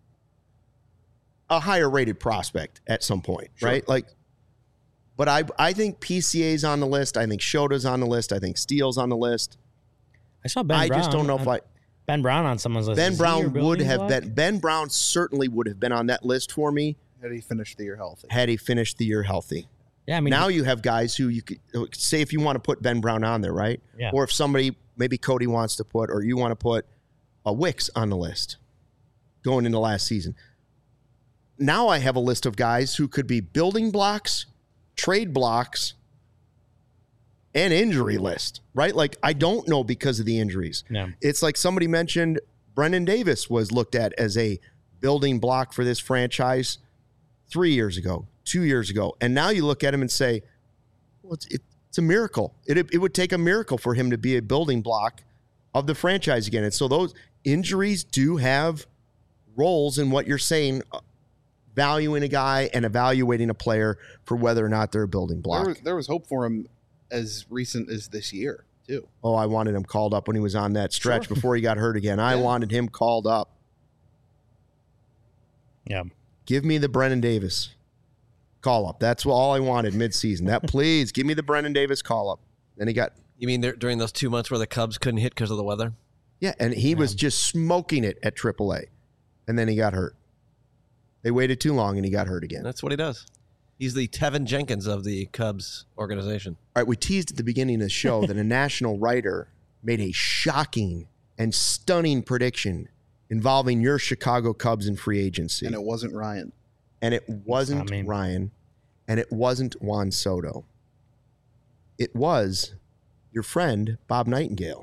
a higher rated prospect at some point, right? But I think PCA's on the list. I think Shota's on the list. I think Steele's on the list. I saw Ben Brown. I just don't know if Ben Brown on someone's list. Ben Is he your Brown would building have block? been. Ben Brown certainly would have been on that list for me Had he finished the year healthy? had he finished the year healthy. Yeah, I mean, Now you have guys who you could say, if you want to put Ben Brown on there, right? Yeah. Or if somebody, maybe Cody wants to put, or you want to put a Wicks on the list going into last season. Now I have a list of guys who could be building blocks, trade blocks, and injury list, right? Like, I don't know because of the injuries. Yeah. It's like somebody mentioned Brendan Davis was looked at as a building block for this franchise 3 years ago, 2 years ago. And now you look at him and say, well, it's a miracle. It would take a miracle for him to be a building block of the franchise again. And so those injuries do have roles in what you're saying, valuing a guy and evaluating a player for whether or not they're a building block. There was hope for him as recent as this year, too. Oh, I wanted him called up when he was on that stretch before he got hurt again. I wanted him called up. Yeah. Give me the Brennan Davis call up. That's all I wanted midseason. That, please give me the Brennan Davis call up. Then he got. You mean during those 2 months where the Cubs couldn't hit because of the weather? Yeah, and he was just smoking it at AAA, and then he got hurt. They waited too long, and he got hurt again. That's what he does. He's the Tevin Jenkins of the Cubs organization. All right, we teased at the beginning of the show that a national writer made a shocking and stunning prediction involving your Chicago Cubs in free agency. And it wasn't Ryan. And it wasn't Ryan, and it wasn't Juan Soto. It was your friend, Bob Nightingale.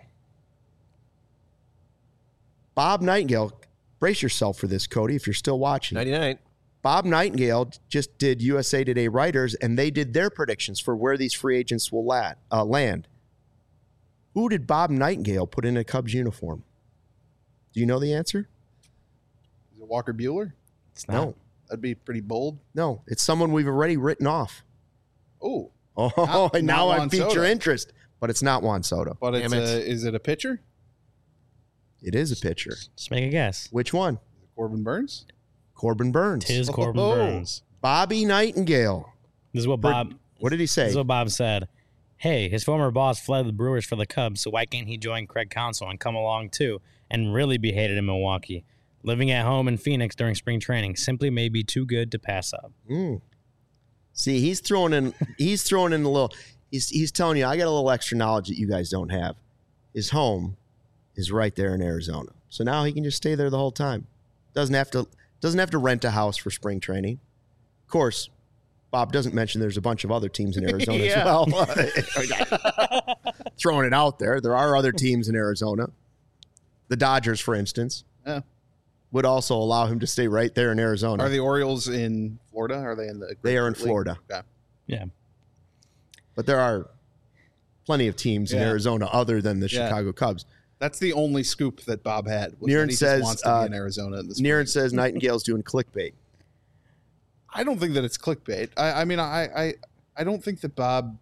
Bob Nightingale, brace yourself for this, Cody, if you're still watching. 99. Bob Nightingale just did USA Today writers, and they did their predictions for where these free agents will land. Who did Bob Nightingale put in a Cubs uniform? Do you know the answer? Is it Walker Buehler? It's not. No. That'd be pretty bold. No, it's someone we've already written off. Oh. Oh, Not now I Juan piqued Soto. your interest, but it's not Juan Soto. But it's is it a pitcher? It is a pitcher. Just make a guess. Which one? Corbin Burns? Corbin Burns. Tis Corbin Oh. Burns. Bobby Nightingale. This is what Bob. What did he say? This is what Bob said. Hey, his former boss fled the Brewers for the Cubs, so why can't he join Craig Counsell and come along too and really be hated in Milwaukee? Living at home in Phoenix during spring training simply may be too good to pass up. See, he's throwing in a little. He's telling you, I got a little extra knowledge that you guys don't have. His home is right there in Arizona, so now he can just stay there the whole time. Doesn't have to rent a house for spring training. Of course, Bob doesn't mention there's a bunch of other teams in Arizona as well. Throwing it out there, there are other teams in Arizona. The Dodgers, for instance. Yeah. Would also allow him to stay right there in Arizona. Are the Orioles in Florida? Are they in the? They are in League? Florida. Okay. Yeah. But there are plenty of teams in Arizona other than the Chicago Cubs. That's the only scoop that Bob had. Was Niren that he says, just wants to be in Arizona in the spring. Niren says Nightingale's doing clickbait. I don't think that it's clickbait. I mean, I don't think that Bob,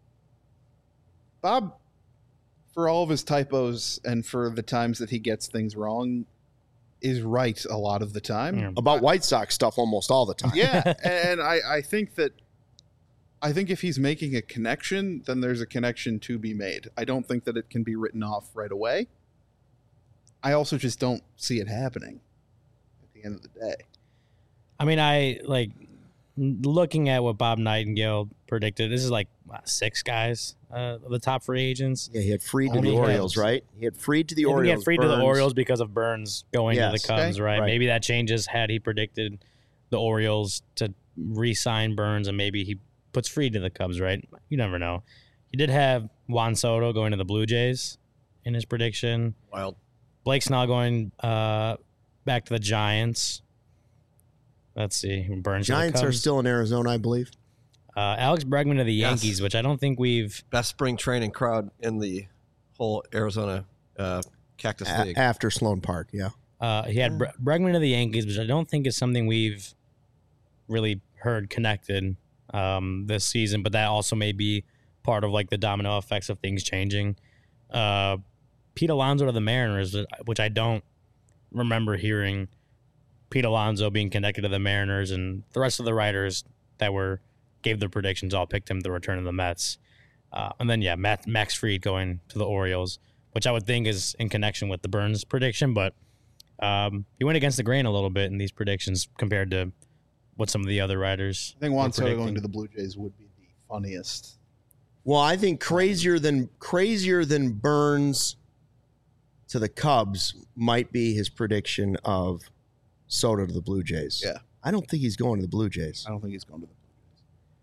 for all of his typos and for the times that he gets things wrong, is right a lot of the time. Yeah. About White Sox stuff almost all the time. Yeah, and I think if he's making a connection, then there's a connection to be made. I don't think that it can be written off right away. I also just don't see it happening. the end of the day. I mean, I like looking at what Bob Nightingale predicted. This is like 6 guys of the top free agents. Yeah, he had Fried to Only the Orioles, him. right? He had Fried to the I think Orioles. he had Fried to the Burns. Orioles because of Burns going to Yes. the Cubs, Okay. right? Right. Maybe that changes had he predicted the Orioles to re-sign Burns, and maybe he puts Fried to the Cubs, right? You never know. He did have Juan Soto going to the Blue Jays in his prediction. Wild. Blake Snell going back to the Giants. Let's see. Burns to the Giants are Cubs. still in Arizona, I believe. Alex Bregman to the Yes. Yankees, which I don't think we've Best spring training crowd in the whole Arizona Cactus League. After Sloan Park, yeah. he had Bregman to the Yankees, which I don't think is something we've really heard connected this season, but that also may be part of like the domino effects of things changing. Pete Alonso to the Mariners, which I don't remember hearing Pete Alonso being connected to the Mariners, and the rest of the writers that gave their predictions all picked him to return to the Mets. And then, yeah, Max Fried going to the Orioles, which I would think is in connection with the Burns prediction, but he went against the grain a little bit in these predictions compared to what some of the other writers I think Juan were Soto going predicting. to the Blue Jays would be the funniest. Well, I think crazier than Burns to the Cubs might be his prediction of Soto to the Blue Jays. Yeah. I don't think he's going to the Blue Jays. I don't think he's going to the Blue Jays.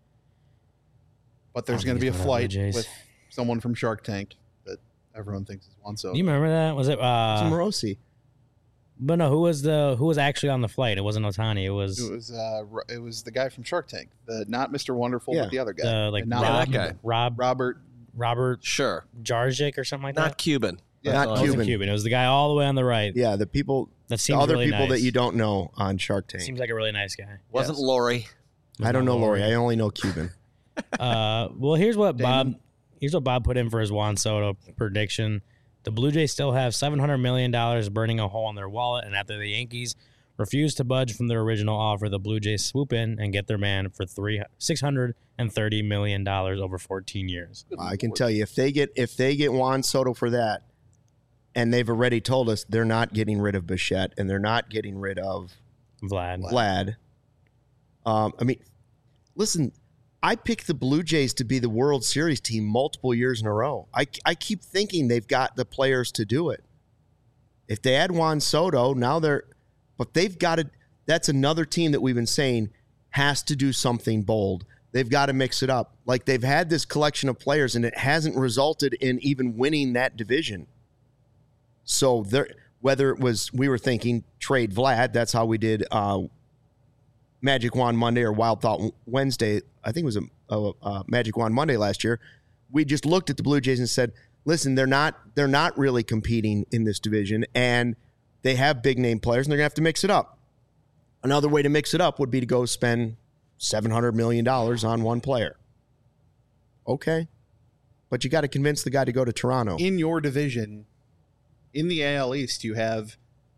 But there's I going don't to be think a he's going to the Blue flight Jays. with someone from Shark Tank that everyone thinks is Juan Soto. Do you remember that? Was it? It's Morosi. But no, who was actually on the flight? It wasn't Otani. It was It was the guy from Shark Tank, not Mr. Wonderful, Yeah. but the other guy, like And not Rob, that guy. Robert Robert. Sure. Jarzik or something like Not that. Cuban. Yeah, Not It wasn't Cuban. Cuban. It was the guy all the way on the right. Yeah, the people, That the seems other really people nice. that you don't know on Shark Tank. Seems like a really nice guy. Wasn't Yes. Lori. I don't know Lori. I only know Cuban. Well, here's what Damon. Bob put in for his Juan Soto prediction. The Blue Jays still have $700 million burning a hole in their wallet, and after the Yankees refuse to budge from their original offer, the Blue Jays swoop in and get their man for $630 million over 14 years. I can tell you, if they get Juan Soto for that, and they've already told us they're not getting rid of Bichette and they're not getting rid of Vlad. I mean, listen, I picked the Blue Jays to be the World Series team multiple years in a row. I keep thinking they've got the players to do it. If they add Juan Soto, but they've got to, that's another team that we've been saying has to do something bold. They've got to mix it up. Like, they've had this collection of players and it hasn't resulted in even winning that division. So whether it was, we were thinking trade Vlad, that's how we did Magic Wand Monday or Wild Thought Wednesday. I think it was a Magic Wand Monday last year. We just looked at the Blue Jays and said, listen, they're not really competing in this division, and they have big name players, and they're gonna have to mix it up. Another way to mix it up would be to go spend $700 million on one player. Okay. But you got to convince the guy to go to Toronto. In your division, in the AL East, you have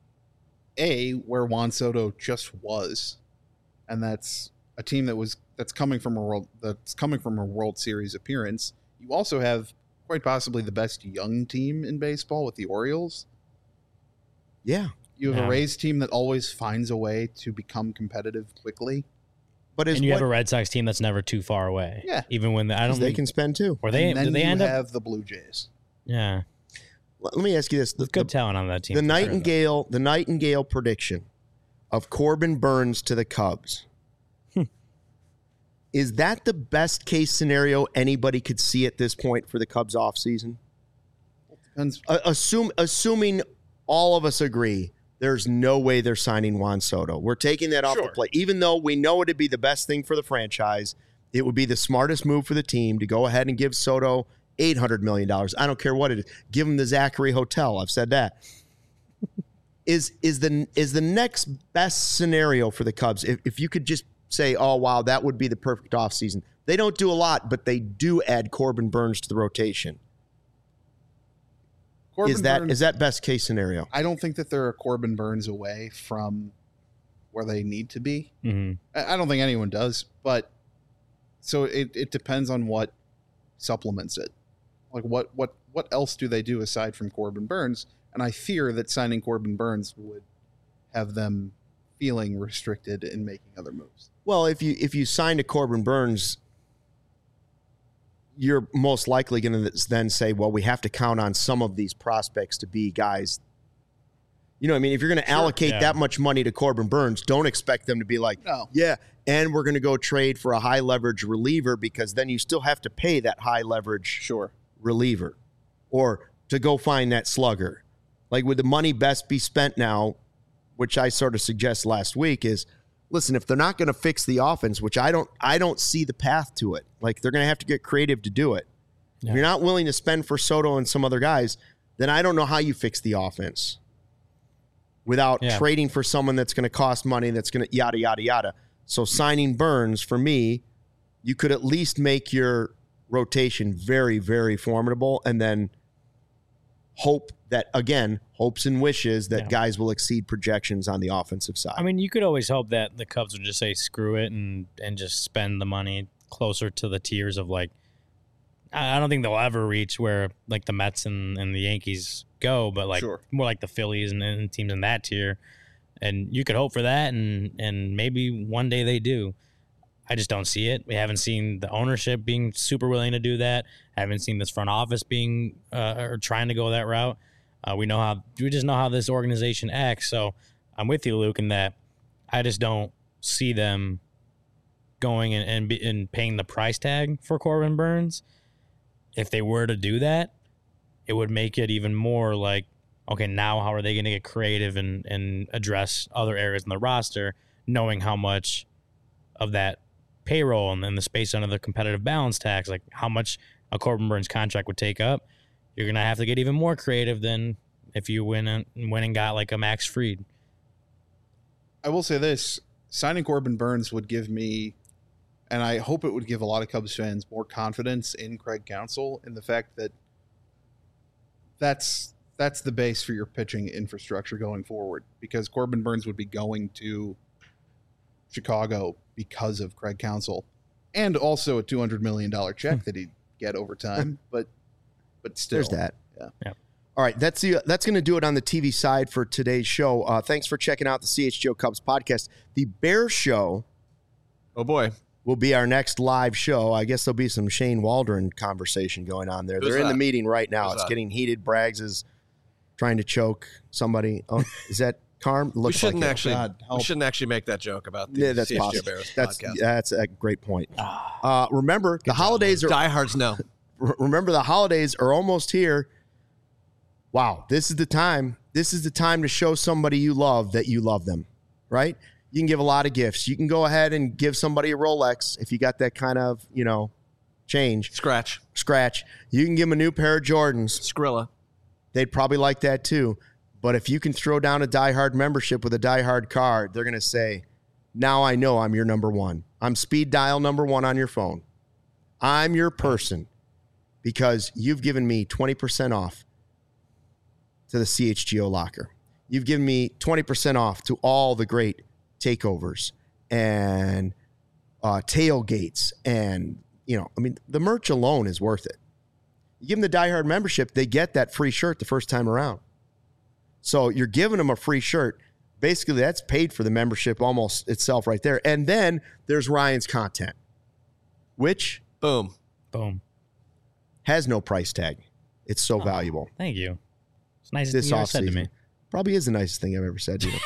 where Juan Soto just was, and that's a team that's coming from a World Series appearance. You also have quite possibly the best young team in baseball with the Orioles. Yeah. You have Yeah. a Rays team that always finds a way to become competitive quickly. But And you have a Red Sox team that's never too far away. Yeah. Even when I don't they think, can spend too. or they And then do they you end up have the Blue Jays. yeah. Let me ask you this: There's good talent on that team. the for sure, though. Nightingale prediction of Corbin Burns to the Cubs. Is that the best case scenario anybody could see at this point for the Cubs offseason? Depends. Assuming all of us agree, there's no way they're signing Juan Soto. We're taking that off the Sure. plate. Even though we know it'd be the best thing for the franchise, it would be the smartest move for the team to go ahead and give Soto $800 million. I don't care what it is. Give him the Zachary Hotel. I've said that. Is the next best scenario for the Cubs, if you could just say, oh, wow, that would be the perfect offseason. They don't do a lot, but they do add Corbin Burns to the rotation. Corbin Burns- Is that best case scenario? I don't think that they're a Corbin Burns away from where they need to be. Mhm. I don't think anyone does, but so it depends on what supplements it. Like what else do they do aside from Corbin Burns? And I fear that signing Corbin Burns would have them feeling restricted in making other moves. Well, if you sign to Corbin Burnes, you're most likely going to then say, well, we have to count on some of these prospects to be guys. You know what I mean? If you're going to allocate that much money to Corbin Burnes, don't expect them to be like, yeah, and we're going to go trade for a high leverage reliever, because then you still have to pay that high leverage reliever, or to go find that slugger. Like, would the money best be spent now, which I sort of suggest last week, is, listen, if they're not going to fix the offense, which I don't see the path to it. Like, they're going to have to get creative to do it. Yeah. If you're not willing to spend for Soto and some other guys, then I don't know how you fix the offense without trading for someone that's going to cost money, that's going to yada, yada, yada. So signing Burnes, for me, you could at least make your rotation very, very formidable, and then hope that, again, hopes and wishes that guys will exceed projections on the offensive side. I mean, you could always hope that the Cubs would just say screw it and just spend the money closer to the tiers of, like, I don't think they'll ever reach where, like, the Mets and the Yankees go, but, like, more like the Phillies and teams in that tier. And you could hope for that, and maybe one day they do. I just don't see it. We haven't seen the ownership being super willing to do that. I haven't seen this front office being or trying to go that route. We just know how this organization acts. So I'm with you, Luke, in that I just don't see them going and paying the price tag for Corbin Burnes. If they were to do that, it would make it even more like, okay, now how are they going to get creative and address other areas in the roster, knowing how much of that payroll and then the space under the competitive balance tax, like how much a Corbin Burnes contract would take up. You're going to have to get even more creative than if you went and got like a Max Fried. I will say this, signing Corbin Burnes would give me, and I hope it would give a lot of Cubs fans, more confidence in Craig Counsell, in the fact that that's the base for your pitching infrastructure going forward, because Corbin Burnes would be going to Chicago because of Craig Counsell, and also a $200 million check that he'd get over time. But still, there's that. Yeah. All right, that's going to do it on the TV side for today's show. Thanks for checking out the CHGO Cubs podcast. The Bear Show, oh boy, will be our next live show. I guess there'll be some Shane Waldron conversation going on there. They're in the meeting right now. It's getting heated. Braggs is trying to choke somebody. Oh, is that Carm? We shouldn't actually make that joke about the CHGO Bears podcast. That's a great point. Remember, the holidays are... Diehards know. Remember, the holidays are almost here. Wow, this is the time. This is the time to show somebody you love that you love them, right? You can give a lot of gifts. You can go ahead and give somebody a Rolex if you got that kind of, change. Scratch. You can give them a new pair of Jordans. Skrilla. They'd probably like that too. But if you can throw down a Die Hard membership with a Die Hard card, they're going to say, now I know I'm your number one. I'm speed dial number one on your phone. I'm your person because you've given me 20% off to the CHGO locker. You've given me 20% off to all the great takeovers and tailgates. And, the merch alone is worth it. You give them the Die Hard membership, they get that free shirt the first time around. So you're giving them a free shirt. Basically, that's paid for the membership almost itself right there. And then there's Ryan's content, which boom has no price tag. It's so valuable. Thank you. It's the nicest thing you ever said to me. Probably is the nicest thing I've ever said to you.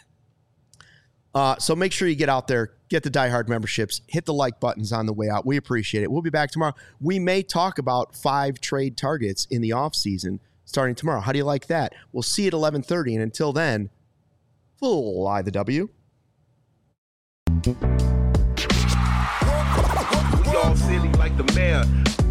So make sure you get out there, get the Die Hard memberships, hit the like buttons on the way out. We appreciate it. We'll be back tomorrow. We may talk about 5 trade targets in the offseason starting tomorrow. How do you like that? We'll see you at 11:30. And until then, fly the W. We all silly like the mayor.